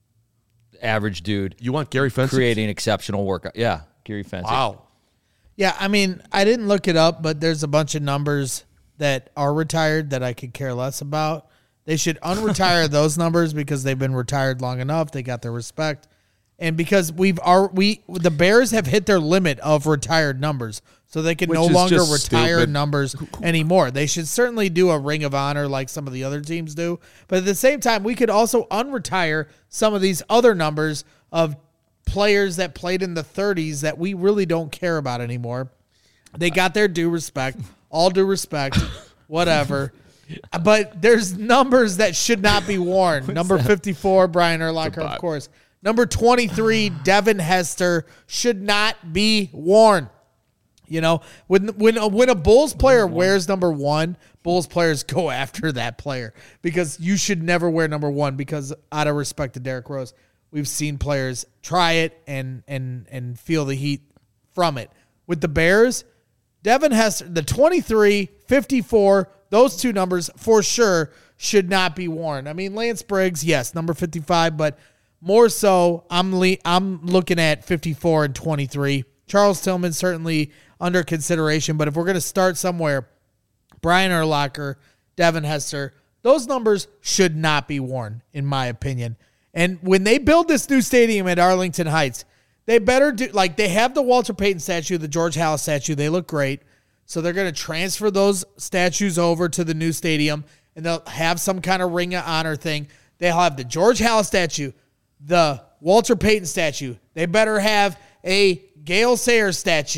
Average dude. You want Gary Fenton? Creating exceptional work. Yeah, Gary Fenton. Wow. Yeah, I mean, I didn't look it up, but there's a bunch of numbers that are retired that I could care less about. They should unretire those numbers because they've been retired long enough. They got their respect. And because the Bears have hit their limit of retired numbers, so they can no longer retire numbers anymore. They should certainly do a Ring of Honor like some of the other teams do. But at the same time, we could also unretire some of these other numbers of players that played in the 30s that we really don't care about anymore. They got their due respect, all due respect, whatever. But there's numbers that should not be worn. Number 54, Brian Urlacher, of course. Number 23, Devin Hester, should not be worn. You know, when a Bulls player wears number 1, Bulls players go after that player because you should never wear number 1 because out of respect to Derrick Rose, we've seen players try it and feel the heat from it. With the Bears, Devin Hester, the 23, 54, those two numbers for sure should not be worn. I mean, Lance Briggs, yes, number 55, but more so, I'm looking at 54 and 23. Charles Tillman certainly under consideration, but if we're going to start somewhere, Brian Urlacher, Devin Hester, those numbers should not be worn, in my opinion. And when they build this new stadium at Arlington Heights, they better do, like they have the Walter Payton statue, the George Halas statue. They look great. So they're going to transfer those statues over to the new stadium, and they'll have some kind of Ring of Honor thing. They'll have the George Halas statue, the Walter Payton statue. They better have a Gale Sayers statue,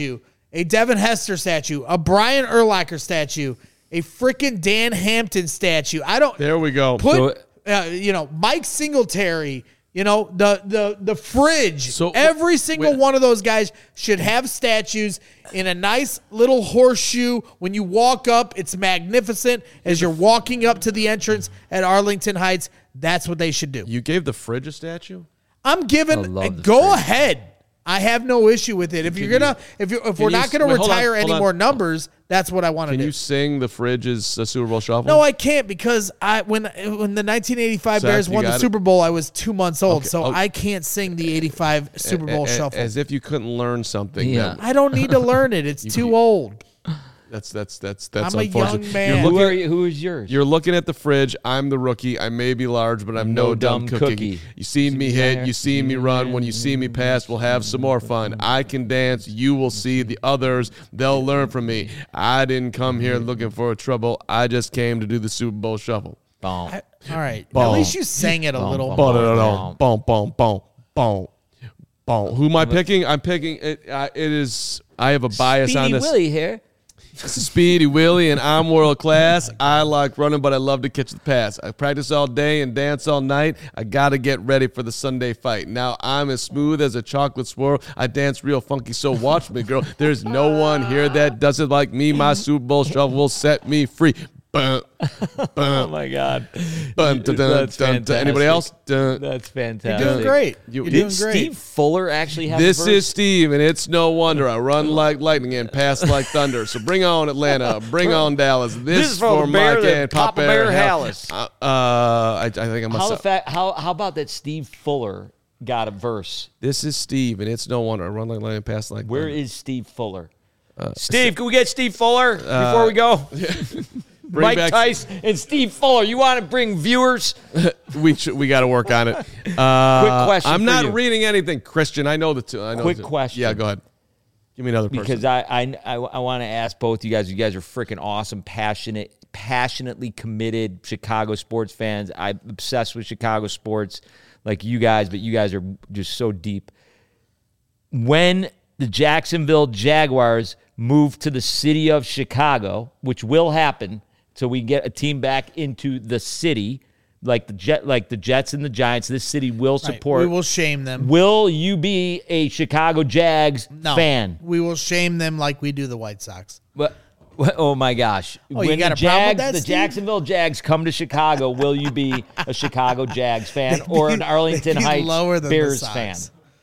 a Devin Hester statue, a Brian Urlacher statue, a freaking Dan Hampton statue. There we go. Put, Mike Singletary, the fridge. So, every single one of those guys should have statues in a nice little horseshoe. When you walk up, it's magnificent. As you're walking up to the entrance at Arlington Heights, that's what they should do. You gave the fridge a statue? I'm giving. Go ahead. I have no issue with it. If we're not gonna retire any more numbers, that's what I want to do. Can you sing the Fridge's Super Bowl Shuffle? No, I can't because when the 1985 Bears won the Super Bowl, I was 2 months old, I can't sing the 85 Super Bowl Shuffle. As if you couldn't learn something. Yeah. I don't need to learn it. It's too old. That's I'm a unfortunate. young man. Who is yours? You're looking at the fridge. I'm the rookie. I may be large, but I'm no dumb cookie. You seen me hit. You seen me run. When you see me pass, we'll have some more fun. I can dance. You will see the others. They'll learn from me. I didn't come here looking for trouble. I just came to do the Super Bowl Shuffle. All right. At least you sang it a little more. Who am I picking? I'm picking it. It is. I have a bias on this. Willie here. This is Speedy Willie, and I'm world class. I like running, but I love to catch the pass. I practice all day and dance all night. I got to get ready for the Sunday fight. Now I'm as smooth as a chocolate swirl. I dance real funky, so watch me, girl. There's no one here that does it like me. My Super Bowl Shuffle will set me free. Oh my God! That's fantastic. Anybody else? That's fantastic. You're doing great. You're doing great. Steve Fuller actually have This is Steve, and it's no wonder I run like lightning and pass like thunder. So bring on Atlanta, bring on Dallas. This is for Mike and Papa Bear Hallis. I think I'm How about that Steve Fuller got a verse? This is Steve, and it's no wonder I run like lightning and pass like thunder. Where is Steve Fuller? Steve, can we get Steve Fuller before we go? Mike Tice and Steve Fuller. You want to bring viewers? We got to work on it. Quick question. I'm not reading anything, Christian. I know the two. Quick question. Yeah, go ahead. Give me another person. Because I want to ask both you guys. You guys are freaking awesome, passionately committed Chicago sports fans. I'm obsessed with Chicago sports like you guys, but you guys are just so deep. When the Jacksonville Jaguars move to the city of Chicago, which will happen, so we get a team back into the city, like the Jets and the Giants. This city will support. We will shame them. Will you be a Chicago Jags fan? We will shame them like we do the White Sox. But oh my gosh! Oh, you got a problem with that, the Steve? Jacksonville Jags come to Chicago. Will you be a Chicago Jags fan or an Arlington Heights Bears fan?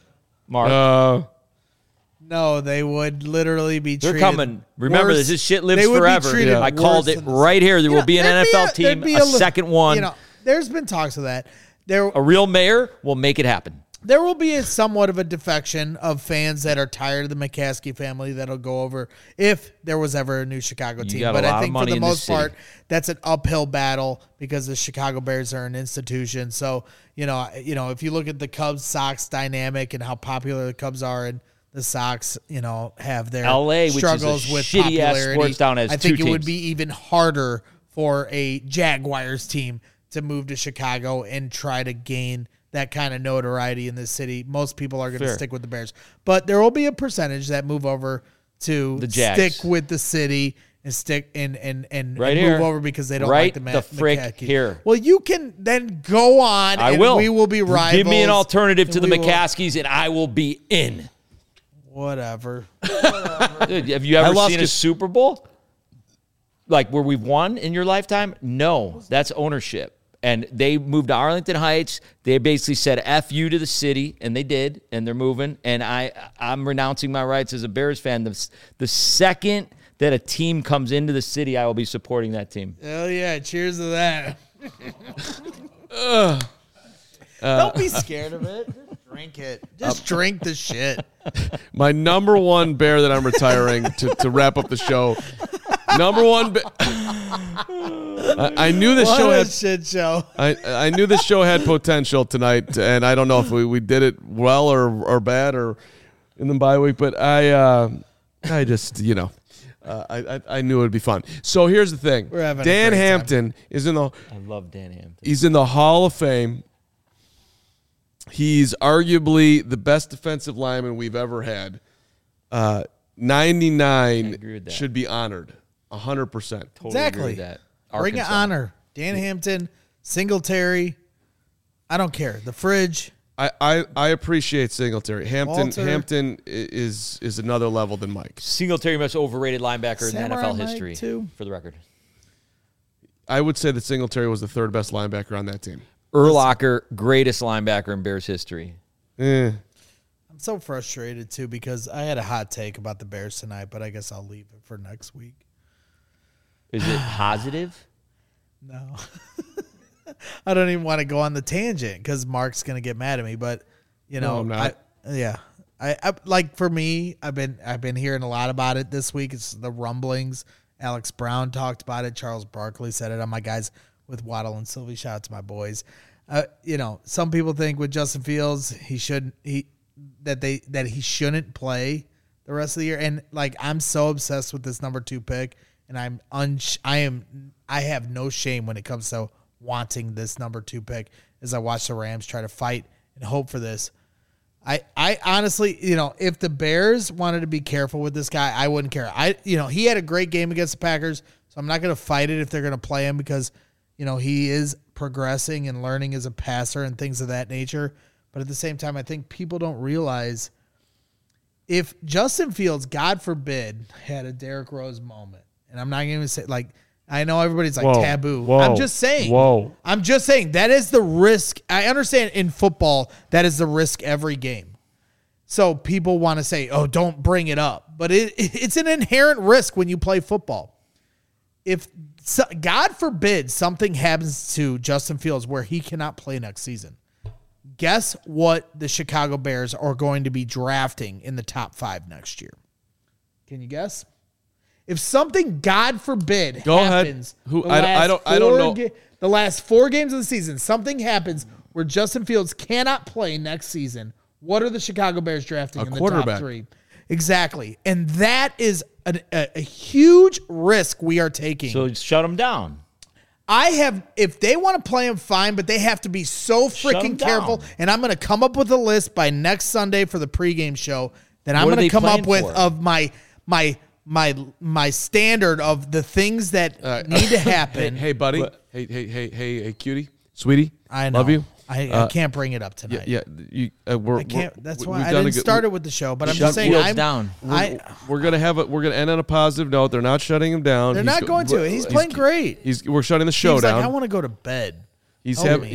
Mark. No, they would literally be treated. They're coming. Remember, worse. This shit lives forever. I called it right here. There will be an NFL team, a second one. There's been talks of that. A real mayor will make it happen. There will be somewhat of a defection of fans that are tired of the McCaskey family that'll go over if there was ever a new Chicago team. But I think for the most part, that's an uphill battle because the Chicago Bears are an institution. So, if you look at the Cubs-Sox dynamic and how popular the Cubs are and the Sox, have their LA, struggles with popularity. Sports town, has I think it would be even harder for a Jaguars team to move to Chicago and try to gain that kind of notoriety in this city. Most people are going to stick with the Bears, but there will be a percentage that move over to the Jags. Stick with the city and stick and right move over because they don't like the frick McCaskey. Here. Well, you can then go on. I will. We will be rivals. Give me an alternative to the McCaskies, and I will be in. Whatever. Dude, have you ever seen a Super Bowl? Like where we've won in your lifetime? No, that's ownership. And they moved to Arlington Heights. They basically said F you to the city, and they did, and they're moving. And I'm renouncing my rights as a Bears fan. The second that a team comes into the city, I will be supporting that team. Hell yeah, cheers to that. Don't be scared of it. Just drink it. Just drink the shit. My number one Bear that I'm retiring to wrap up the show. Number one. I knew this show had shit show. I knew this show had potential tonight, and I don't know if we did it well or bad or in the bye week, but I just I knew it would be fun. So here's the thing: Dan Hampton is in the. I love Dan Hampton. He's in the Hall of Fame. He's arguably the best defensive lineman we've ever had. 99 should be honored. 100%. Totally exactly. agree with that. Bring an honor. Dan Hampton, Singletary. I don't care. The fridge. I appreciate Singletary. Walter. Hampton is another level than Mike. Singletary, most overrated linebacker in Samurai NFL Mike, history, too. for the record. I would say that Singletary was the third best linebacker on that team. Urlacher, greatest linebacker in Bears history. Eh. I'm so frustrated, too, because I had a hot take about the Bears tonight, but I guess I'll leave it for next week. Is it positive? No. I don't even want to go on the tangent because Mark's going to get mad at me, but, you know. No, I'm not. I like, for me, I've been hearing a lot about it this week. It's the rumblings. Alex Brown talked about it. Charles Barkley said it on my guys with Waddle and Sylvie. Shout out to my boys. You know, some people think with Justin Fields, he shouldn't play the rest of the year. And like, I'm so obsessed with this number 2 pick, and I have no shame when it comes to wanting this number 2 pick as I watch the Rams try to fight and hope for this. I honestly, you know, if the Bears wanted to be careful with this guy, I wouldn't care. He had a great game against the Packers, so I'm not going to fight it if they're going to play him because, you know, he is progressing and learning as a passer and things of that nature. But at the same time, I think people don't realize if Justin Fields, God forbid, had a Derrick Rose moment, and I'm not going to say, like, I know everybody's like taboo. I'm just saying. I'm just saying that is the risk. I understand in football that is the risk every game. So people want to say, "Oh, don't bring it up," but it's an inherent risk when you play football. If God forbid something happens to Justin Fields where he cannot play next season, guess what the Chicago Bears are going to be drafting in the top 5 next year? Can you guess? If something, God forbid, happens, I don't know. The last 4 games of the season, something happens where Justin Fields cannot play next season. What are the Chicago Bears drafting in the top 3? Exactly, and that is a huge risk we are taking. So shut them down. If they want to play him, fine, but they have to be so freaking careful. And I'm going to come up with a list by next Sunday for the pregame show that I'm going to come up with of my standard of the things that need to happen. Hey, buddy. Hey, cutie, sweetie. I know. Love you. I can't bring it up tonight. Yeah. I can't. That's why I didn't start it with the show. But I'm just saying, we're gonna end on a positive note. They're not shutting him down. They're not going to. He's playing great. We're shutting the show down. Like, I want to go to bed. He's having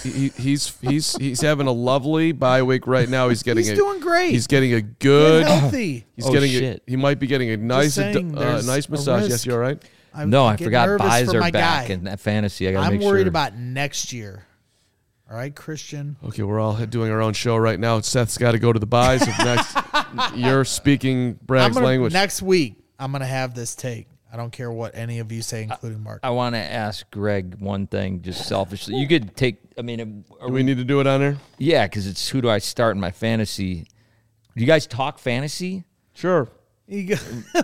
a lovely bye week right now. He's doing great. He's getting a good healthy. He might be getting a nice nice massage. Yes, you all right? I forgot buys are back in that fantasy. I'm worried about next year. All right, Christian. Okay, we're all doing our own show right now. Seth's got to go to the buys. You're speaking Bragg's language. Next week, I'm going to have this take. I don't care what any of you say, including Mark. I want to ask Greg one thing, just selfishly. You could take, do we need to do it on there? Yeah, because it's who do I start in my fantasy. Do you guys talk fantasy? Sure. Because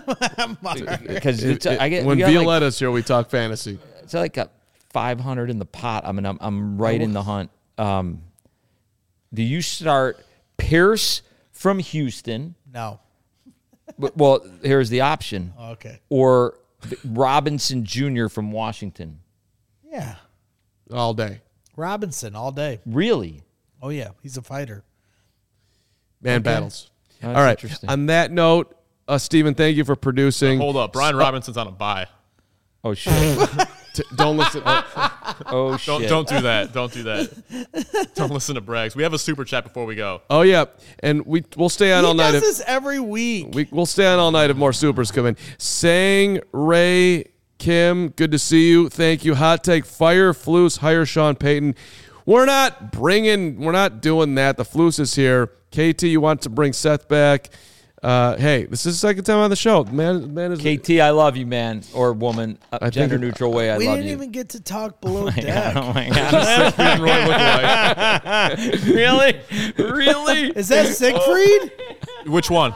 when Violetta's here, we talk fantasy. It's like a 500 in the pot. I mean, I'm right in the hunt. Do you start Pierce from Houston? No. Well, here's the option. Okay. Or Robinson Jr. from Washington. Yeah. All day. Robinson, all day. Really? Oh, yeah. He's a fighter. Battles. All right. On that note, Steven, thank you for producing. Hold up. Brian Robinson's on a bye. Oh, shit. Don't listen. Oh, shit. Don't do that. Don't do that. Don't listen to Braggs. We have a super chat before we go. Oh, yeah. And we'll stay on all night. He does this every week. We'll stay on all night if more supers come in. Sang, Ray, Kim, good to see you. Thank you. Hot take, fire Flus, hire Sean Payton. We're not doing that. The Flus is here. KT, you want to bring Seth back. Hey, this is the second time on the show. Man is KT, I love you, man, or woman, gender neutral way. I love you. We didn't even get to talk below deck. Oh my God! Really? Is that Siegfried? Which one?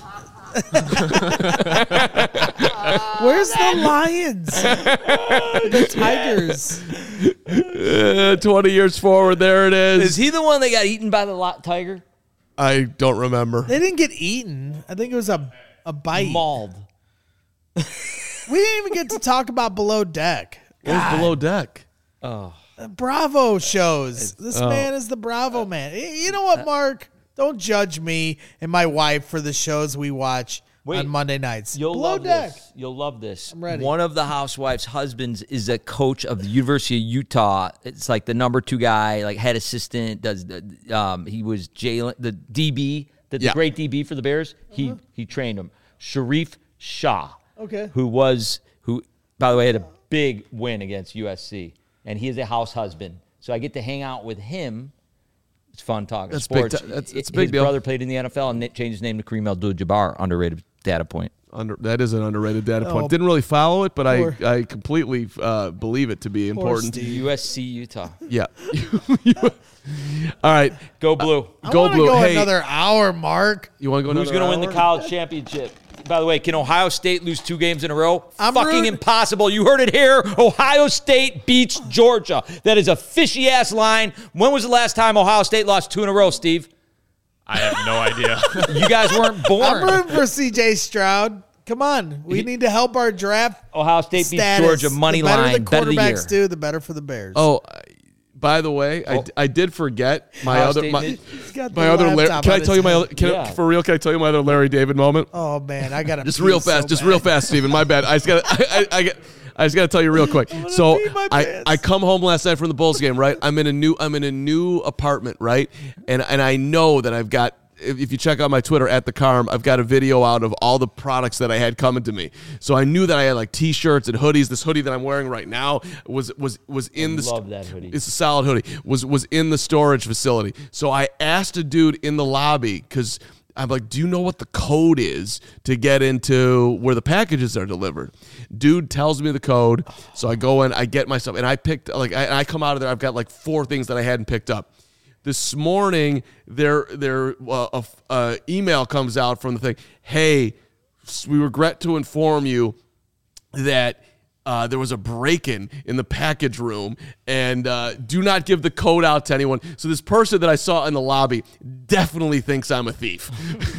Where's the Lions? The Tigers. 20 years forward, there it is. Is he the one that got eaten by the tiger? I don't remember. They didn't get eaten. I think it was a A bite. Mauled. We didn't even get to talk about Below Deck. What's Below Deck? Oh. Bravo shows. This man is the Bravo man. You know what, Mark? Don't judge me and my wife for the shows we watch on Monday nights. You'll Below love Deck. this. You'll love this. I'm ready. One of the housewives' husbands is a coach of the University of Utah. It's like the number 2 guy, like head assistant. He was the DB, the great DB for the Bears. He trained him. Sharif Shah. Okay. Who by the way had a big win against USC, and he is a house husband. So I get to hang out with him. It's fun talking sports. That's a big His deal. brother played in the NFL and changed his name to Kareem Abdul-Jabbar. Underrated data point. That is an underrated data point. Oh, Didn't really follow it, but poor- I completely believe it to be important. Steve. USC Utah. Yeah. All right. Go Blue. Go I Blue. Go Hey, another hour, Mark. you want to go Who's another going to win the hour? college championship? By the way, can Ohio State lose 2 games in a row? I'm Fucking rooting- impossible. You heard it here. Ohio State beats Georgia. That is a fishy-ass line. When was the last time Ohio State lost 2 in a row, Steve? I have no idea. You guys weren't born. I'm rooting for C.J. Stroud. Come on. We need to help our draft Ohio State beats status. Georgia. Money the better line. the Bet of the year. quarterbacks do, the better for the Bears. Oh, by the way, I did forget my Ohio other State my, mid- He's got my the other. laptop Can I on tell his you my head. other? Can Yeah. for real? Can I tell you my other Larry David moment? Oh man, I got to Just real fast. Just real fast, Steven. My bad. I just got. I just got to tell you real quick. So pee my I pants. come home last night from the Bulls game. Right. I'm in a new apartment. Right. And I know that I've got. If you check out my Twitter at the Carm, I've got a video out of all the products that I had coming to me. So I knew that I had like T-shirts and hoodies. This hoodie that I'm wearing right now was in the. Love that hoodie. It's a solid hoodie. Was in the storage facility. So I asked a dude in the lobby because I'm like, do you know what the code is to get into where the packages are delivered? Dude tells me the code. So I go in, I get my stuff, and I picked I come out of there. I've got like 4 things that I hadn't picked up. This morning, their email comes out from the thing. Hey, we regret to inform you that there was a break-in in the package room, and do not give the code out to anyone. So this person that I saw in the lobby definitely thinks I'm a thief.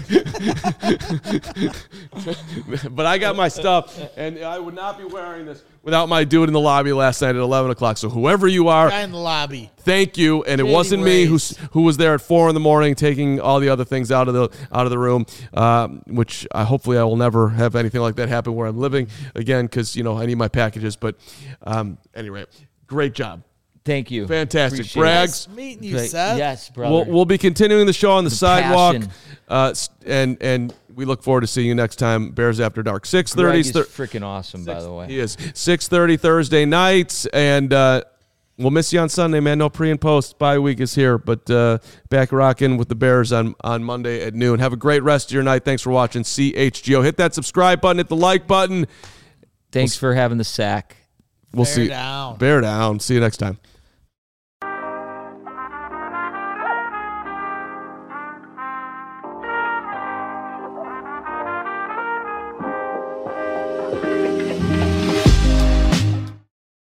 But I got my stuff, and I would not be wearing this without my dude in the lobby last night at 11 o'clock. So whoever you are, Guy in the lobby. thank you. And it Shady wasn't me ways. who was there at 4 a.m. taking all the other things out of the room, which hopefully I will never have anything like that happen where I'm living again, because I need my packages. But anyway, great job. Thank you. Fantastic. Appreciate Brags. Nice meeting you, Great. Seth. Yes, brother. We'll be continuing the show on the sidewalk, passion. and we look forward to seeing you next time. Bears After Dark, 6:30. Greg is freaking awesome, by the way. He is 6:30 Thursday nights, and we'll miss you on Sunday, man. No pre and post. Bye week is here, but back rocking with the Bears on Monday at noon. Have a great rest of your night. Thanks for watching CHGO. Hit that subscribe button. Hit the like button. Thanks for having the sack. We'll Bear see. down. Bear down. See you next time.